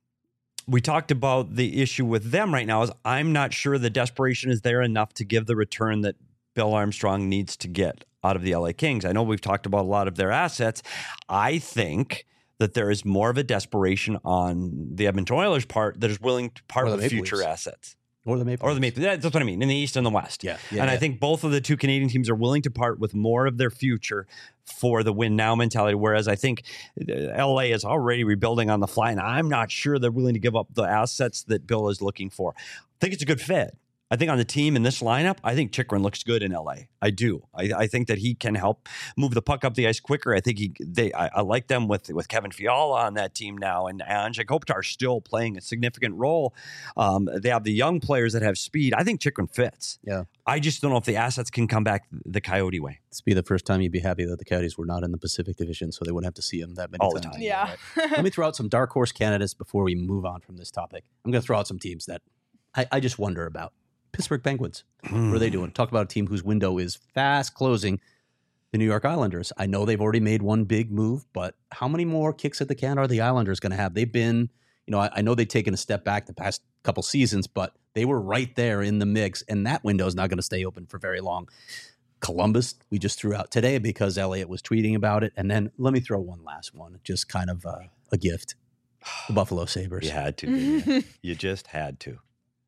We talked about the issue with them right now is I'm not sure the desperation is there enough to give the return that Bill Armstrong needs to get out of the LA Kings. I know we've talked about a lot of their assets. I think that there is more of a desperation on the Edmonton Oilers' part that is willing to part with future assets. Or the Maple Leafs. That's what I mean, in the East and the West. Yeah. I think both of the 2 Canadian teams are willing to part with more of their future for the win now mentality, whereas I think LA is already rebuilding on the fly, and I'm not sure they're willing to give up the assets that Bill is looking for. I think it's a good fit. I think on the team in this lineup, I think Chychrun looks good in LA. I do. I think that he can help move the puck up the ice quicker. I think I like them with Kevin Fiala on that team now, and Anze Kopitar still playing a significant role. They have the young players that have speed. I think Chychrun fits. Yeah. I just don't know if the assets can come back the Coyote way. This would be the first time you'd be happy that the Coyotes were not in the Pacific Division, so they wouldn't have to see them that many all times. The time. Yeah. Right? Let me throw out some dark horse candidates before we move on from this topic. I'm going to throw out some teams that I just wonder about. Pittsburgh Penguins. What are they doing? Talk about a team whose window is fast closing. The New York Islanders. I know they've already made one big move, but how many more kicks at the can are the Islanders going to have? They've been, I know they've taken a step back the past couple seasons, but they were right there in the mix, and that window is not going to stay open for very long. Columbus, we just threw out today because Elliott was tweeting about it. And then let me throw one last one, just kind of a gift. The Buffalo Sabres. You had to. Didn't you? You just had to.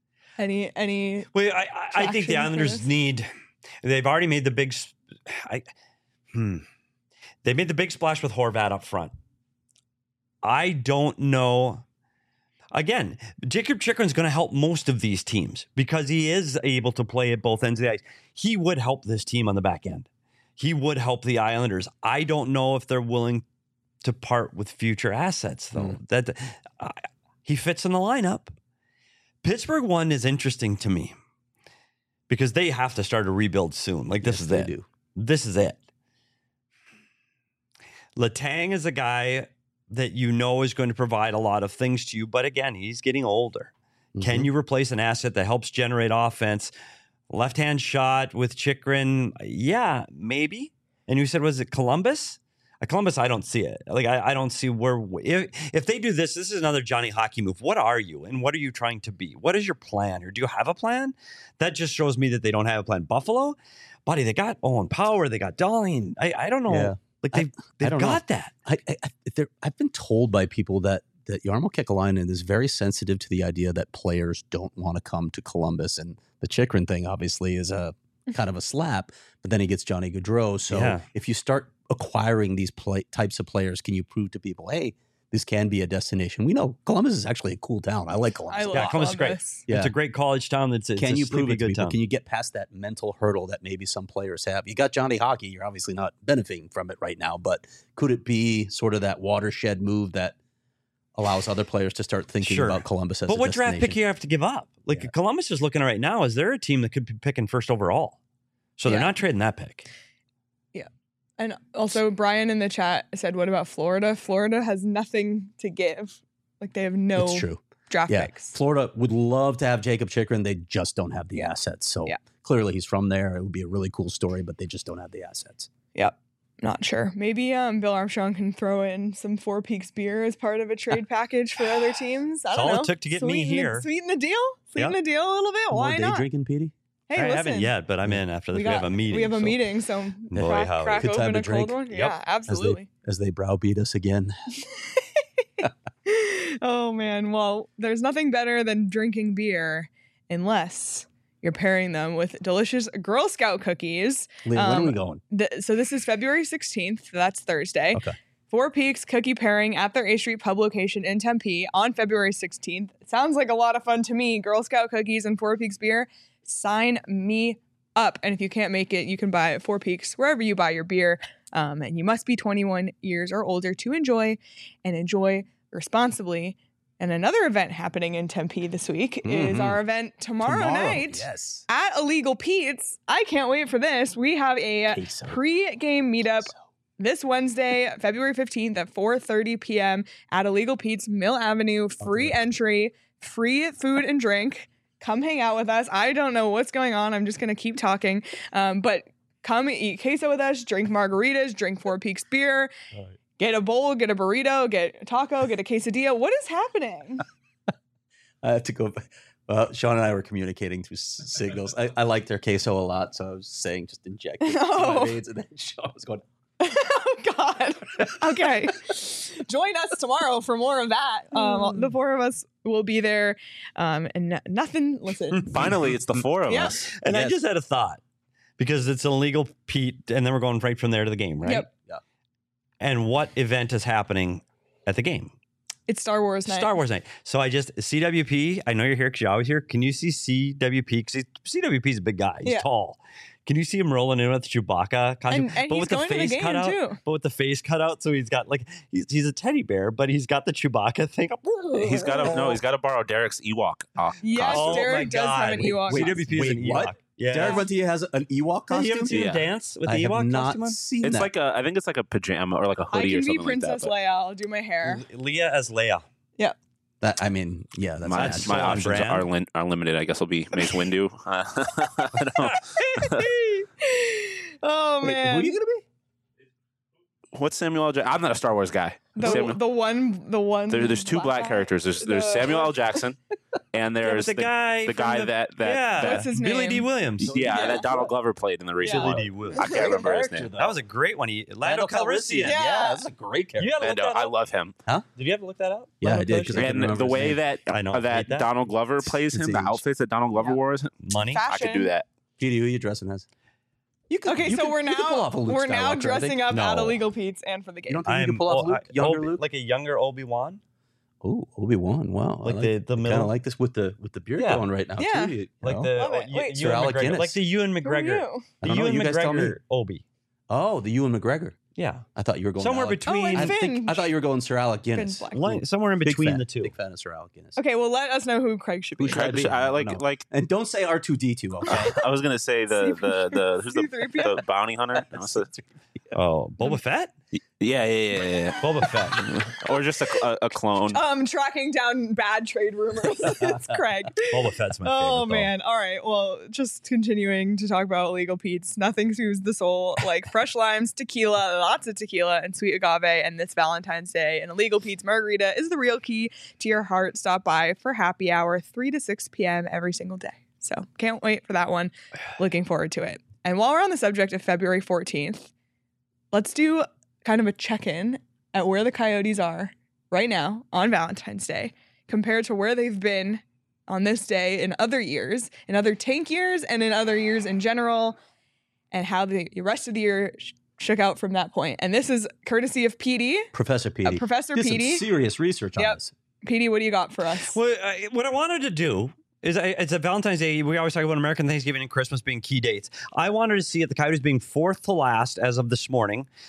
Any Well, I think the Islanders they've already made the big they made the big splash with Horvat up front. I don't know. Again, Jacob Chychrun's going to help most of these teams because he is able to play at both ends of the ice. He would help this team on the back end. He would help the Islanders. I don't know if they're willing to part with future assets, though. He fits in the lineup. Pittsburgh one is interesting to me because they have to start a rebuild soon. This is it. This is it. Letang is a guy that is going to provide a lot of things to you, but again, he's getting older. Mm-hmm. Can you replace an asset that helps generate offense? Left-hand shot with Chychrun, yeah, maybe. And you said, was it Columbus? Columbus, I don't see it. I don't see where if they do this is another Johnny Hockey move. What are you and what are you trying to be? What is your plan? Or do you have a plan? That just shows me that they don't have a plan. Buffalo, buddy, they got Owen Power, they got Darling. I don't know. Yeah. They've got that. I've been told by people that Jarmo Kekalainen is very sensitive to the idea that players don't want to come to Columbus, and the Chychrun thing obviously is a kind of a slap. But then he gets Johnny Gaudreau. So if you start acquiring these types of players, can you prove to people, hey, this can be a destination? We know Columbus is actually a cool town. I like Columbus. Columbus is great. Yeah. It's a great college town. Can you prove it to people? Town. Can you get past that mental hurdle that maybe some players have? You got Johnny Hockey. You're obviously not benefiting from it right now, but could it be sort of that watershed move that allows other players to start thinking Sure. about Columbus as But a what draft pick destination. you have to give up? Like Columbus is looking right now. Is there a team that could be picking first overall? So they're Yeah. not trading that pick. And also, Brian in the chat said, "What about Florida? Florida has nothing to give. Like they have no It's true. draft Yeah, picks." Florida would love to have Jacob Chikrin. They just don't have the assets. So Yeah. clearly he's from there. It would be a really cool story, but they just don't have the assets. Yep. Not sure. Maybe Bill Armstrong can throw in some Four Peaks beer as part of a trade package for other teams. I That's don't all know. it took to get me here. Sweeten the deal. Sweeten Yeah. the deal a little bit. More Why day not? drinking, Petey? Hey, I listen. haven't yet, but I'm in after this. We, have a meeting. We have a so- meeting, so Boy, crack, howdy. crack Good time open to a cold drink. one. Yep. Yeah, absolutely. As they browbeat us again. Oh man, well, there's nothing better than drinking beer unless you're pairing them with delicious Girl Scout cookies. Leah, when are we going? So this is February 16th. That's Thursday. Okay. Four Peaks cookie pairing at their A Street Pub location in Tempe on February 16th. It sounds like a lot of fun to me. Girl Scout cookies and Four Peaks beer. Sign me up. And if you can't make it, you can buy at Four Peaks wherever you buy your beer. And you must be 21 years or older to enjoy responsibly. And another event happening in Tempe this week is our event tomorrow night Yes. at Illegal Pete's. I can't wait for this. We have a Queso. pre-game meetup this Wednesday, February 15th at 4:30 p.m. at Illegal Pete's, Mill Avenue. Free entry, free food and drink. Come hang out with us. I don't know what's going on. I'm just going to keep talking. But come eat queso with us, drink margaritas, drink Four Peaks beer. Get a bowl, get a burrito, get a taco, get a quesadilla. What is happening? I have to go. Sean and I were communicating through signals. I like their queso a lot, so I was saying just inject it to Oh. my veins, and then Sean was going, Oh God. Okay. Join us tomorrow for more of that. The four of us will be there. And nothing. Listen. Finally, it's the four of Yeah. us. And I Yes. just had a thought because it's an illegal Pete, and then we're going right from there to the game, right? Yep. And what event is happening at the game? It's Star Wars night. Star Wars night. So I just CWP. I know you're here because you're always here. Can you see CWP? Because CWP is a big guy. He's Yeah. tall. Can you see him rolling in with the Chewbacca costume? And he's going to the game, cutout. too. But with the face cut out, so he's got like he's a teddy bear, but he's got the Chewbacca thing. He's got to borrow Derek's Ewok. Yes, Oh Derek my does have God. an Ewok. Wait, costume. CWP is an Wait, what? Ewok. Yeah. Derek Runtia has an Ewok Yeah, costume? you haven't seen him Yeah. dance with the I have Ewok not costume on? seen It's that. like I think it's like a pajama or like a I hoodie or can be something Princess like that. Leia. I'll do my hair. Leah as Leia. That, I mean, yeah, that's My, That's my so on options brand. are limited. I guess will be Mace Windu. I don't- Oh Wait, man. who are you going to be? What's Samuel L. Jackson? I'm not a Star Wars guy. the one There's two black guy. characters. There's The- Samuel L. Jackson, and there's the guy. the from guy that yeah. What's his Billy name? D. Williams. yeah, that Donald Glover played in the recent Yeah. one. Billy D. Williams. I can't remember his name. That was a great one. Lando Calrissian. Yeah. that's a great character. You gotta look And that I up. love him. Did you ever look that up? Yeah, I Lando did, 'cause I Calrissian? couldn't And remember the his way name. that I know. that Hate that. Donald Glover plays It's him, the age. outfits that Donald Glover wears, Money. Fashion. I could do that. Petey, who are you dressing as? You could, Okay, you so could- we're you could pull off a Luke now Skywalker, I dressing think. up at No. Illegal Pete's and for the You game. don't think you can pull off Luke, younger Luke? like a younger Obi-Wan. Oh, Obi-Wan. Wow. Like I the kind middle- of like this with the beard Yeah. going right now Yeah. too. You Like know? the Love it. Wait. Sir Ewan Alec McGregor, Guinness. like the Ewan Who are McGregor, you? I the don't know, Ewan you guys tell me. McGregor Obi. Oh, the Ewan McGregor. Yeah, I thought you were going somewhere Alec. between. and I Finn. thought you were going Sir Alec Guinness. Black. Somewhere in Big between fan. the two. Big fan of Sir Alec Guinness. Okay, well, let us know who Craig should be. Who should I be? I don't know. like And don't say R2D2. Okay. I was gonna say the who's C-3PO? the bounty hunter? Oh, Boba Fett. Yeah. Boba Fett. Or just a clone. Tracking down bad trade rumors. It's Craig. Boba Fett's my favorite. Oh though. man. All right. Well, just continuing to talk about Illegal Pete's. Nothing soothes the soul like fresh limes, tequila, lots of tequila, and sweet agave. And this Valentine's Day, an Illegal Pete's margarita is the real key to your heart. Stop by for happy hour 3 to 6 p.m. every single day. So can't wait for that one. Looking forward to it. And while we're on the subject of February 14th, let's do kind of a check-in at where the Coyotes are right now on Valentine's Day compared to where they've been on this day in other years, in other tank years, and in other years in general, and how the rest of the year shook out from that point. And this is courtesy of PD. Professor Petey. Professor Did some Petey. serious research on Yep. this. PD, what do you got for us? Well, what I wanted to do is it's a Valentine's Day. We always talk about American Thanksgiving and Christmas being key dates. I wanted to see at the Coyotes being fourth to last as of this morning.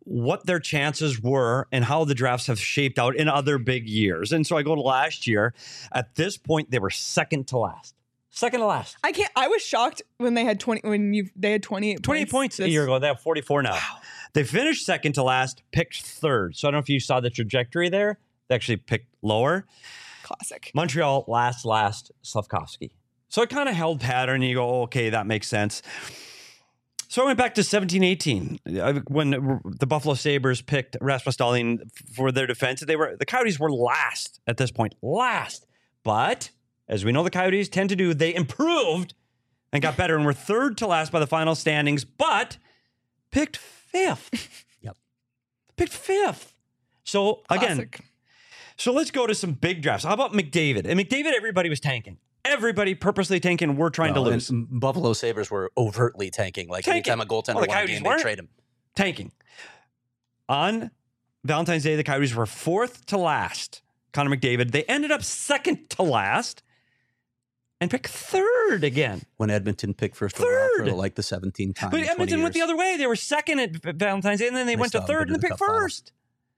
what their chances were and how the drafts have shaped out in other big years. And so I go to last year. At this point, they were second to last. Second to last. I was shocked when they had 20. They had 28. 28 points a year ago. They have 44 now. Wow. They finished second to last, picked third. So I don't know if you saw the trajectory there. They actually picked lower. Classic. Montreal last, Slavkovsky. So it kind of held pattern. And you go, okay, that makes sense. So I went back to 17-18 when the Buffalo Sabres picked Rasmus Dahlin for their defense. The Coyotes were last at this point. Last. But as we know the Coyotes tend to do, they improved and got better and were third to last by the final standings, but picked fifth. Yep. Picked fifth. So again, Classic. so let's go to some big drafts. How about McDavid? And McDavid, everybody was tanking. Everybody purposely tanking. We're trying to lose. Buffalo Sabres were overtly tanking. Like anytime a goaltender won a game, they trade him. Tanking. On Valentine's Day, the Coyotes were fourth to last. Connor McDavid. They ended up second to last and picked third again. When Edmonton picked first overall for like the 17th time. But Edmonton went the other way. They were second at Valentine's Day, and then they went to third and they picked first.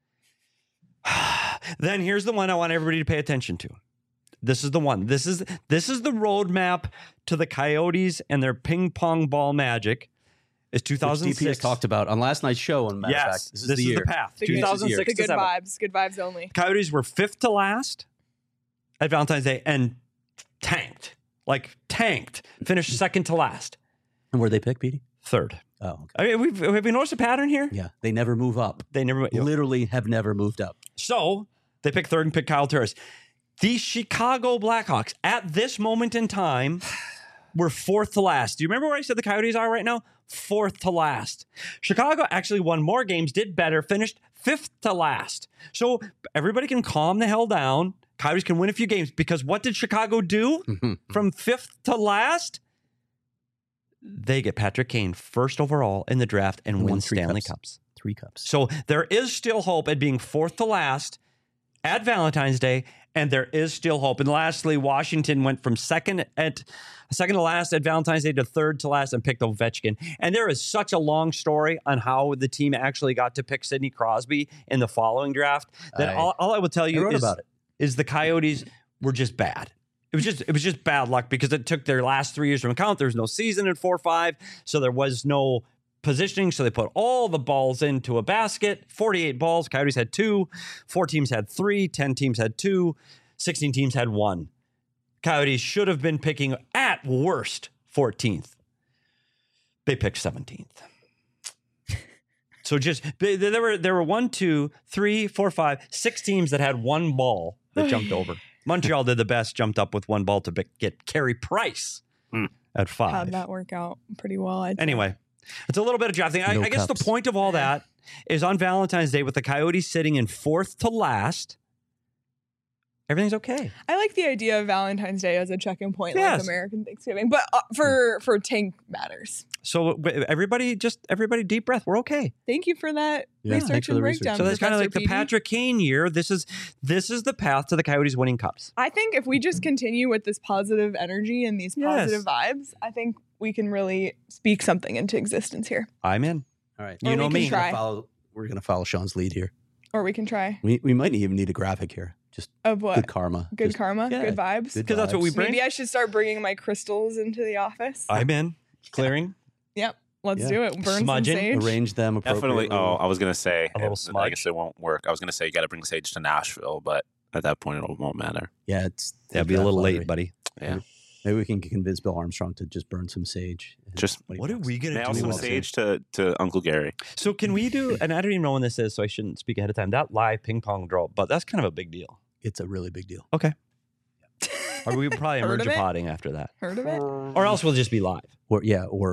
Then here's the one I want everybody to pay attention to. This is the one. This is the roadmap to the Coyotes and their ping pong ball magic. Is 2006. DP has talked about on last night's show. And matter of fact, this is the year. The path. The 2006 good vibes. Good vibes only. Coyotes were fifth to last at Valentine's Day and tanked. Finished second to last. And where they pick, Petey? Third. Oh, okay. I mean, have we noticed a pattern here? Yeah, they never move up. They never literally have never moved up. So they picked third and picked Kyle Turris. The Chicago Blackhawks at this moment in time were fourth to last. Do you remember where I said the Coyotes are right now? Fourth to last. Chicago actually won more games, did better, finished fifth to last. So everybody can calm the hell down. Coyotes can win a few games because what did Chicago do from fifth to last? They get Patrick Kane first overall in the draft and win Stanley Cups. 3 cups. So there is still hope at being fourth to last at Valentine's Day, and there is still hope. And lastly, Washington went from second to last at Valentine's Day to third to last and picked Ovechkin. And there is such a long story on how the team actually got to pick Sidney Crosby in the following draft that all I will tell you is the Coyotes were just bad. It was just bad luck because it took their last 3 years from account. There was no season in 4-5, so there was no positioning. So they put all the balls into a basket. 48 balls. Coyotes had 2. 4 teams had 3. 10 teams had 2. 16 teams had 1. Coyotes should have been picking at worst 14th. They picked 17th. So there were 1, 2, 3, 4, 5, 6 teams that had 1 ball that jumped over. Montreal did the best, jumped up with 1 ball to get Carey Price at 5. How'd that work out pretty well? Anyway, it's a little bit of drafting. I guess the point of all that is on Valentine's Day with the Coyotes sitting in fourth to last, everything's okay. I like the idea of Valentine's Day as a check-in point, like American Thanksgiving, but for tank matters. So everybody deep breath. We're okay. Thank you for that research and breakdown. So that's kind of like the Patrick Kane year. This is the path to the Coyotes winning cups. I think if we just continue with this positive energy and these positive vibes, I think we can really speak something into existence here. I'm in. All right. You know me. We're going to follow Sean's lead here. Or we can try. We might even need a graphic here. Just of what? Good karma. Good karma? Good vibes? Because that's what we bring. Maybe I should start bringing my crystals into the office. I'm in. Clearing. Yep. Let's do it. Burn Smudging. some sage. Arrange them appropriately. Definitely. Oh, I was going to say, a little smudge. I guess it won't work. I was going to say you got to bring sage to Nashville, but at that point it won't matter. Yeah, that'd be a little late, buddy. Yeah. Maybe we can convince Bill Armstrong to just burn some sage. What are we going to do? Some sage to Uncle Gary. So can we do, and I don't even know when this is, so I shouldn't speak ahead of time, that live ping pong draw, but that's kind of a big deal. It's a really big deal. Okay. Or we probably emerge-a-potting after that. Heard of it? Or else we'll just be live. Or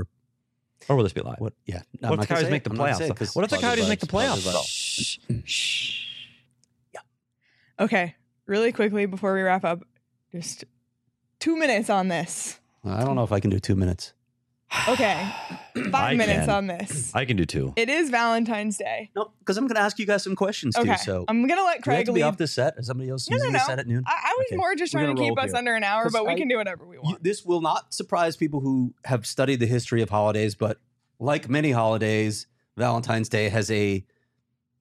we'll just be live. What? Yeah. What if the Coyotes make the playoffs? What if the Coyotes make the playoffs? Shh. Yeah. Okay. Really quickly before we wrap up, just 2 minutes on this. I don't know if I can do 2 minutes. Okay. 5 minutes on this. I can do 2. It is Valentine's Day. No, because I'm going to ask you guys some questions too. So I'm going to let Craig lead. Be off the set. Is somebody else using the set at noon? I was more just trying to keep us under an hour, but we can do whatever we want. This will not surprise people who have studied the history of holidays, but like many holidays, Valentine's Day has a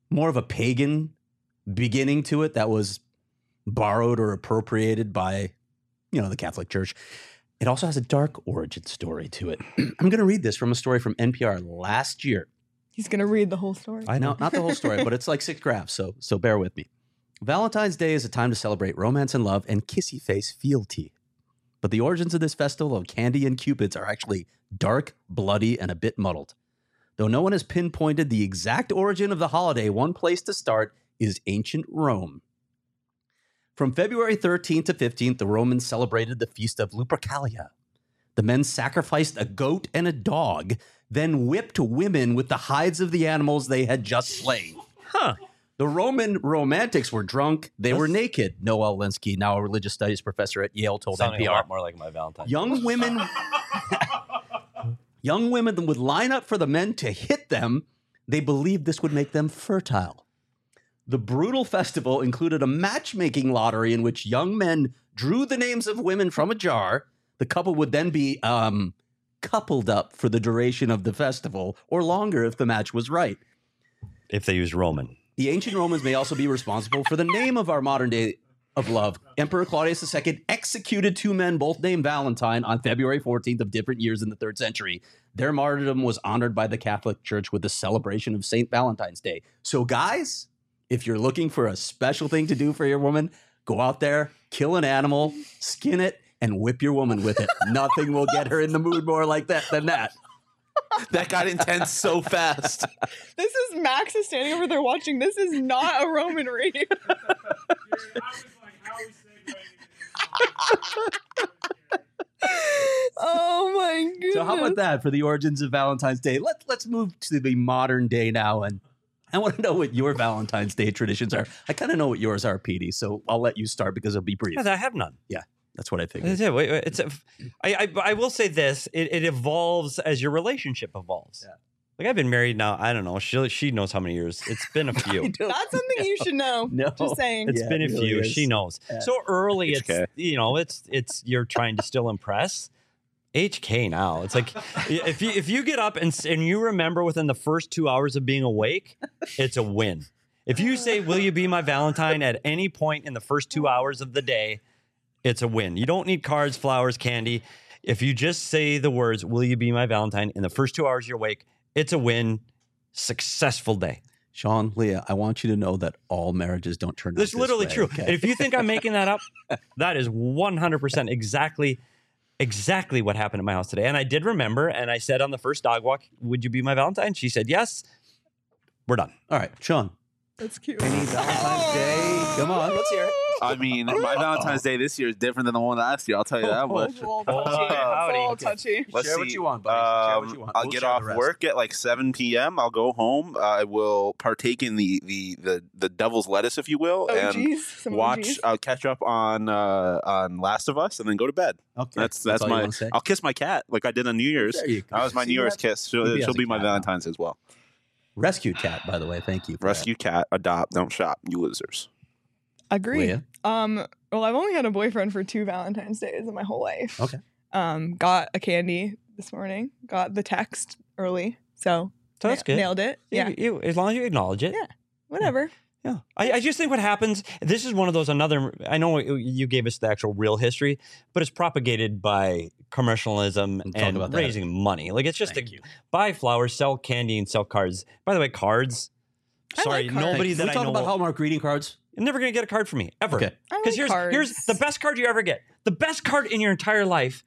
more of a pagan beginning to it that was borrowed or appropriated by, the Catholic Church. It also has a dark origin story to it. I'm going to read this from a story from NPR last year. He's going to read the whole story. I know, not the whole story, but it's like 6 graphs, so bear with me. Valentine's Day is a time to celebrate romance and love and kissy face fealty. But the origins of this festival of candy and cupids are actually dark, bloody, and a bit muddled. Though no one has pinpointed the exact origin of the holiday, one place to start is ancient Rome. From February 13th to 15th, the Romans celebrated the feast of Lupercalia. The men sacrificed a goat and a dog, then whipped women with the hides of the animals they had just slain. The Roman romantics were drunk. They were naked. Noel Linsky, now a religious studies professor at Yale, told Sounding NPR. a lot more like my Valentine. Young women would line up for the men to hit them. They believed this would make them fertile. The brutal festival included a matchmaking lottery in which young men drew the names of women from a jar. The couple would then be coupled up for the duration of the festival, or longer if the match was right. If they used Roman. The ancient Romans may also be responsible for the name of our modern day of love. Emperor Claudius II executed 2 men, both named Valentine, on February 14th of different years in the 3rd century. Their martyrdom was honored by the Catholic Church with the celebration of St. Valentine's Day. So guys, if you're looking for a special thing to do for your woman, go out there, kill an animal, skin it, and whip your woman with it. Nothing will get her in the mood more like that than that. That got intense so fast. This is Max is standing over there watching. This is not a Roman read. Oh my goodness. So how about that for the origins of Valentine's Day? Let's move to the modern day now, and I want to know what your Valentine's Day traditions are. I kind of know what yours are, Petey, so I'll let you start because it'll be brief. Yeah, I have none. Yeah, that's what I figured. I will say this: it evolves as your relationship evolves. Yeah. Like I've been married now. I don't know. She knows how many years. It's been a few. That's something you should know. No. Just saying. It's been a it really few. is. She knows. Yeah. So early, it's HK. it's you're trying to still impress. HK now. It's like if you get up and you remember within the first 2 hours of being awake, it's a win. If you say, "Will you be my Valentine?" at any point in the first 2 hours of the day, it's a win. You don't need cards, flowers, candy. If you just say the words, "Will you be my Valentine?" in the first 2 hours you're awake, it's a win. Successful day. Sean, Leah, I want you to know that all marriages don't turn out That's this literally way, true. okay? And if you think I'm making that up, that is 100% exactly what happened at my house today. And I did remember, and I said on the first dog walk, "Would you be my Valentine?" She said yes. We're done. All right, Sean, That's cute. any Valentine's Day? Come on, let's hear it. I mean, my Valentine's Day this year is different than the one last year. I'll tell you that much. It's a little touchy. It's a little touchy. Let's Share what see. you want, buddy. Share what you want. I'll We'll get share off the rest. work at like 7 p.m. I'll go home. I will partake in the devil's lettuce, if you will, and OGs. Some watch. OGs. I'll catch up on Last of Us, and then go to bed. Okay, That's all you my. wanna say? I'll kiss my cat like I did on New Year's. There you go. That was my See, New Year's that- kiss. Maybe She'll as a be my cat now. Valentine's as well. Rescue cat, by the way. Thank you. For Rescue cat, adopt, don't shop. You losers. Agree. Leah? Well, I've only had a boyfriend for 2 Valentine's Days in my whole life. Okay. Got a candy this morning. Got the text early. So So that's good. Nailed it. Yeah. You, as long as you acknowledge it. Yeah. Whatever. Yeah. I just think what happens, this is one of those I know you gave us the actual real history, but it's propagated by commercialism We'll talk and about that. raising money. Like it's just Thank to you. buy flowers, sell candy, and sell cards. By the way, cards. I Sorry, like cards. nobody Can that we I talk know. about Hallmark greeting cards? You're never going to get a card from me, ever. Okay. I Because like here's cards. the best card you ever get. The best card in your entire life.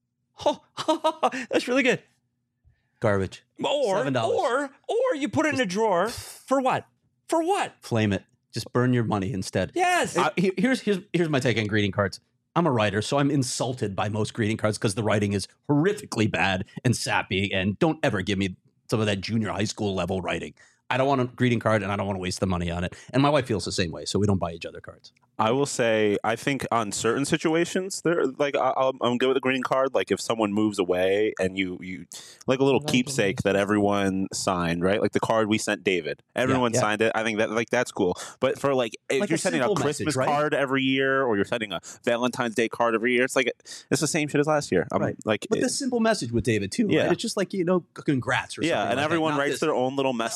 Oh, that's really good. Garbage. Or $7. or you put it in a drawer for what? For what? Flame it. Just burn your money instead. Yes. Here's my take on greeting cards. I'm a writer, so I'm insulted by most greeting cards because the writing is horrifically bad and sappy, and don't ever give me some of that junior high school level writing. I don't want a greeting card, and I don't want to waste the money on it. And my wife feels the same way, so we don't buy each other cards. I will say, I think on certain situations, there like I'm good with a greeting card. Like if someone moves away and you like a little keepsake that everyone signed, right? Like the card we sent David, everyone yeah. signed it. I think that's cool. But for like if Like you're a sending a simple Christmas message, right? card every year, or you're sending a Valentine's Day card every year, it's the same shit as last year. I'm Right. like, But the simple message with David too, Yeah. right? It's just like congrats or something. yeah, and like everyone that. Not writes this- their own little message, but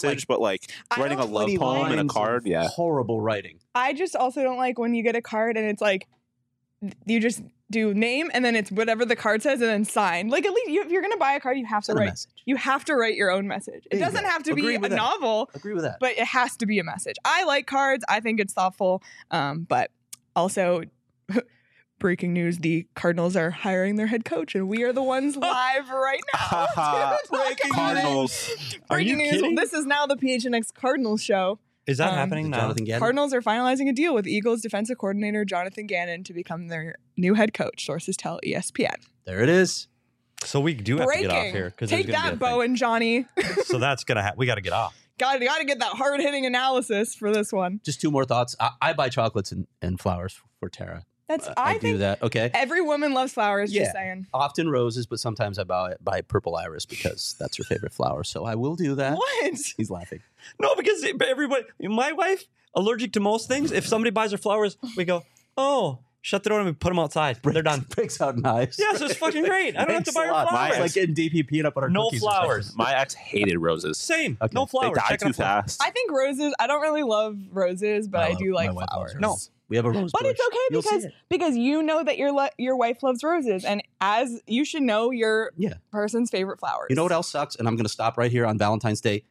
like I writing a don't- love 20 poem in a lines card. of Yeah. horrible writing. I just also don't like when you get a card and it's like you just do name and then it's whatever the card says and then sign. Like, at least if you're gonna buy a card, you have to Send a write. message. You have to write your own message. It There you doesn't go. have to Agree be a with that. novel, Agree with that. but it has to be a message. I like cards. I think it's thoughtful. But also, breaking news: the Cardinals are hiring their head coach, and we are the ones live right now. Breaking Cardinals. Are you Breaking news: kidding? this is now the PHNX Cardinals show. Is that Um, happening now? Jonathan Gannon? Cardinals are finalizing a deal with Eagles defensive coordinator Jonathan Gannon to become their new head coach. Sources tell ESPN. There it is. So we do have to get off Breaking. here because Take that, Bo and Johnny. So that's gonna we got to get off. Got to get that hard hitting analysis for this one. Just two more thoughts. I buy chocolates and flowers for Tara. That's I I do think that. Okay. every woman loves flowers. Yeah. Just saying. Often roses, but sometimes I buy purple iris because that's her favorite flower. So I will do that. What? He's laughing. No, because everybody, my wife, allergic to most things. If somebody buys her flowers, we go, oh, shut the door and we put them outside. They're done. Breaks out knives. Yeah, so it's fucking great. I don't have to Thanks buy a her lot. flowers. It's like getting DP peanut butter No cookies or something. flowers. My ex hated roses. Same. Okay. No They flowers. die Checking too on flowers. fast. I think roses. I don't really love roses, but I do like my wife loves flowers. roses. We have a rose But bush. it's okay You'll see because it. you know that your wife loves roses, and as you should know your Yeah. person's favorite flowers. You know what else sucks? And I'm going to stop right here on Valentine's Day.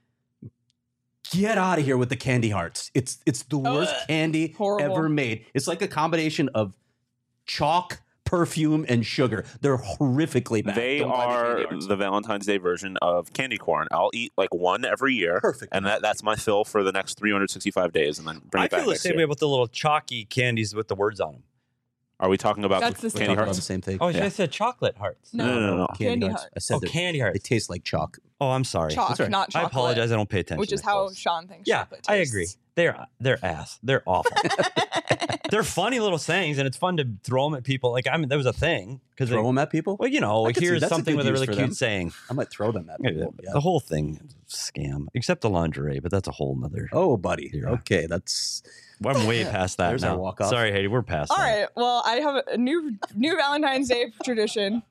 Get out of here with the candy hearts. It's the worst candy horrible. ever made. It's like a combination of chalk, perfume, and sugar. They're horrifically bad. They Don't buy the are candy hearts. the Valentine's Day version of candy corn. I'll eat like one every year. Perfect. And that's my fill for the next 365 days and then bring I it back feel the next same year. way with the little chalky candies with the words on them. Are we talking about That's the We're same. talking candy about hearts? the same thing. Oh, Yeah. I said chocolate hearts. No. Candy hearts. I said Oh, that candy they hearts. taste like chalk. Oh, I'm sorry. Chalk, That's right. not chocolate. I apologize. I don't pay attention. Which is to how clothes. Sean thinks Yeah, chocolate tastes. I agree. They're ass. They're awful. They're funny little sayings, and it's fun to throw them at people. Like there was a thing because Throw them at people? well, you know, I could see here's that's a something good with a use really for cute them. saying. I might throw them at people. Yeah. The whole thing is a scam, except the lingerie, but that's a whole nother. Oh, buddy. Yeah. Okay, that's I'm way past that There's now. our walk-off. Sorry, Haiti, we're past All that. right. Well, I have a new Valentine's Day tradition.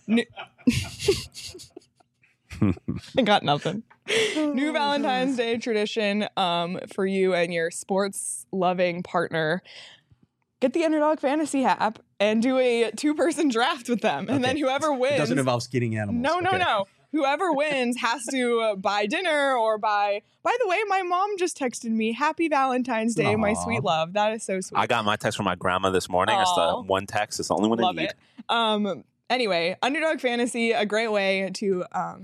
I got nothing. New Valentine's Day tradition for you and your sports loving partner. Get the Underdog Fantasy app and do a 2-person draft with them. And then Okay. whoever it wins. doesn't involve skinning animals. No. Okay. Whoever wins has to buy dinner or buy. By the way, my mom just texted me, "Happy Valentine's Day, my Aw. sweet love." That is so sweet. I got my text from my grandma this morning. It's the Aw. one text. It's the only one I Love need. it. Anyway, Underdog Fantasy, a great way to,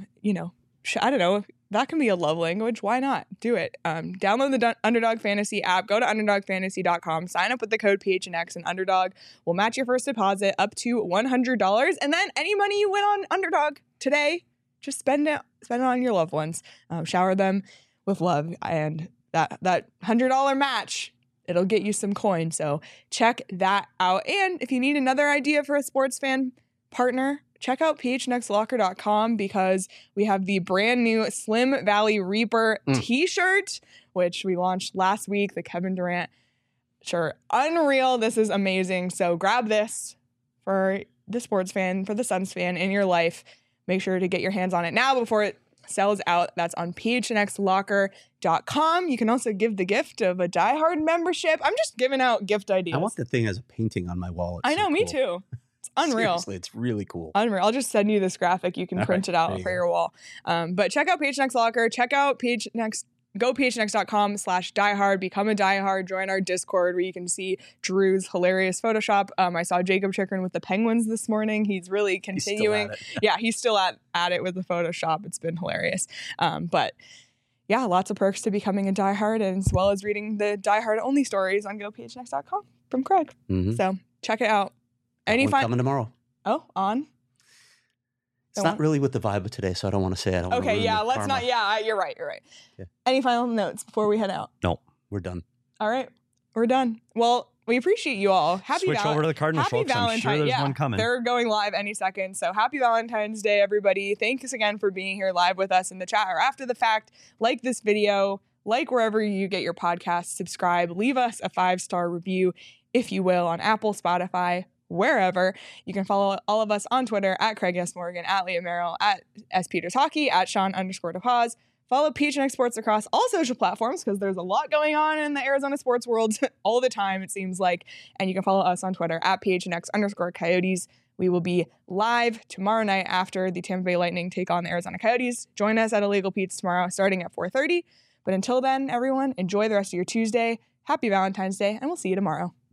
I don't know. That can be a love language. Why not? Do it. Download the Underdog Fantasy app. Go to UnderdogFantasy.com. Sign up with the code PHNX, and Underdog will match your first deposit up to $100. And then any money you win on Underdog today, just spend it on your loved ones. Shower them with love, and that $100 match, it'll get you some coins. So check that out. And if you need another idea for a sports fan partner, check out phnxlocker.com because we have the brand new Slim Valley Reaper t-shirt, which we launched last week, the Kevin Durant shirt. Unreal. This is amazing. So grab this for the sports fan, for the Suns fan in your life. Make sure to get your hands on it now before it sells out. That's on phnxlocker.com. You can also give the gift of a Die Hard membership. I'm just giving out gift ideas. I want the thing as a painting on my wall. It's I know, so me cool. too. It's unreal. Seriously, it's really cool. Unreal. I'll just send you this graphic. You can All print right, it out there you for go. your wall. But check out PHNX Locker. Check out PHNX. Go phnx.com/diehard. Become a diehard. Join our Discord where you can see Drew's hilarious Photoshop. I saw Jacob Chikrin with the Penguins this morning. He's really He's still continuing. at it. Yeah, he's still at it with the Photoshop. It's been hilarious. But yeah, lots of perks to becoming a diehard, and as well as reading the diehard only stories on gophnx.com from Craig. Mhm. So check it out. Any One fun? coming tomorrow. Oh, on. It's not really with the vibe of today, so I don't want to say. I don't. wanna Okay, ruin yeah, the let's karma. not. Yeah, you're right. Yeah. Any final notes before we head out? We're done. All right, we're done. Well, we appreciate you all. Happy Switch over to the Cardinals, Happy folks. I'm Valentine's. sure there's yeah, one coming. They're going live any second. So happy Valentine's Day, everybody. Thanks again for being here live with us in the chat or after the fact. Like this video, like wherever you get your podcasts, subscribe, leave us a 5-star review, if you will, on Apple, Spotify, wherever. You can follow all of us on Twitter at Craig S. Morgan, at Leah Merrill, at S. Peters Hockey, at Sean _DePaz. Follow PHNX Sports across all social platforms because there's a lot going on in the Arizona sports world all the time, it seems like. And you can follow us on Twitter at PHNX_Coyotes. We will be live tomorrow night after the Tampa Bay Lightning take on the Arizona Coyotes. Join us at Illegal Pete's tomorrow starting at 4:30. But until then, everyone, enjoy the rest of your Tuesday. Happy Valentine's Day, and we'll see you tomorrow.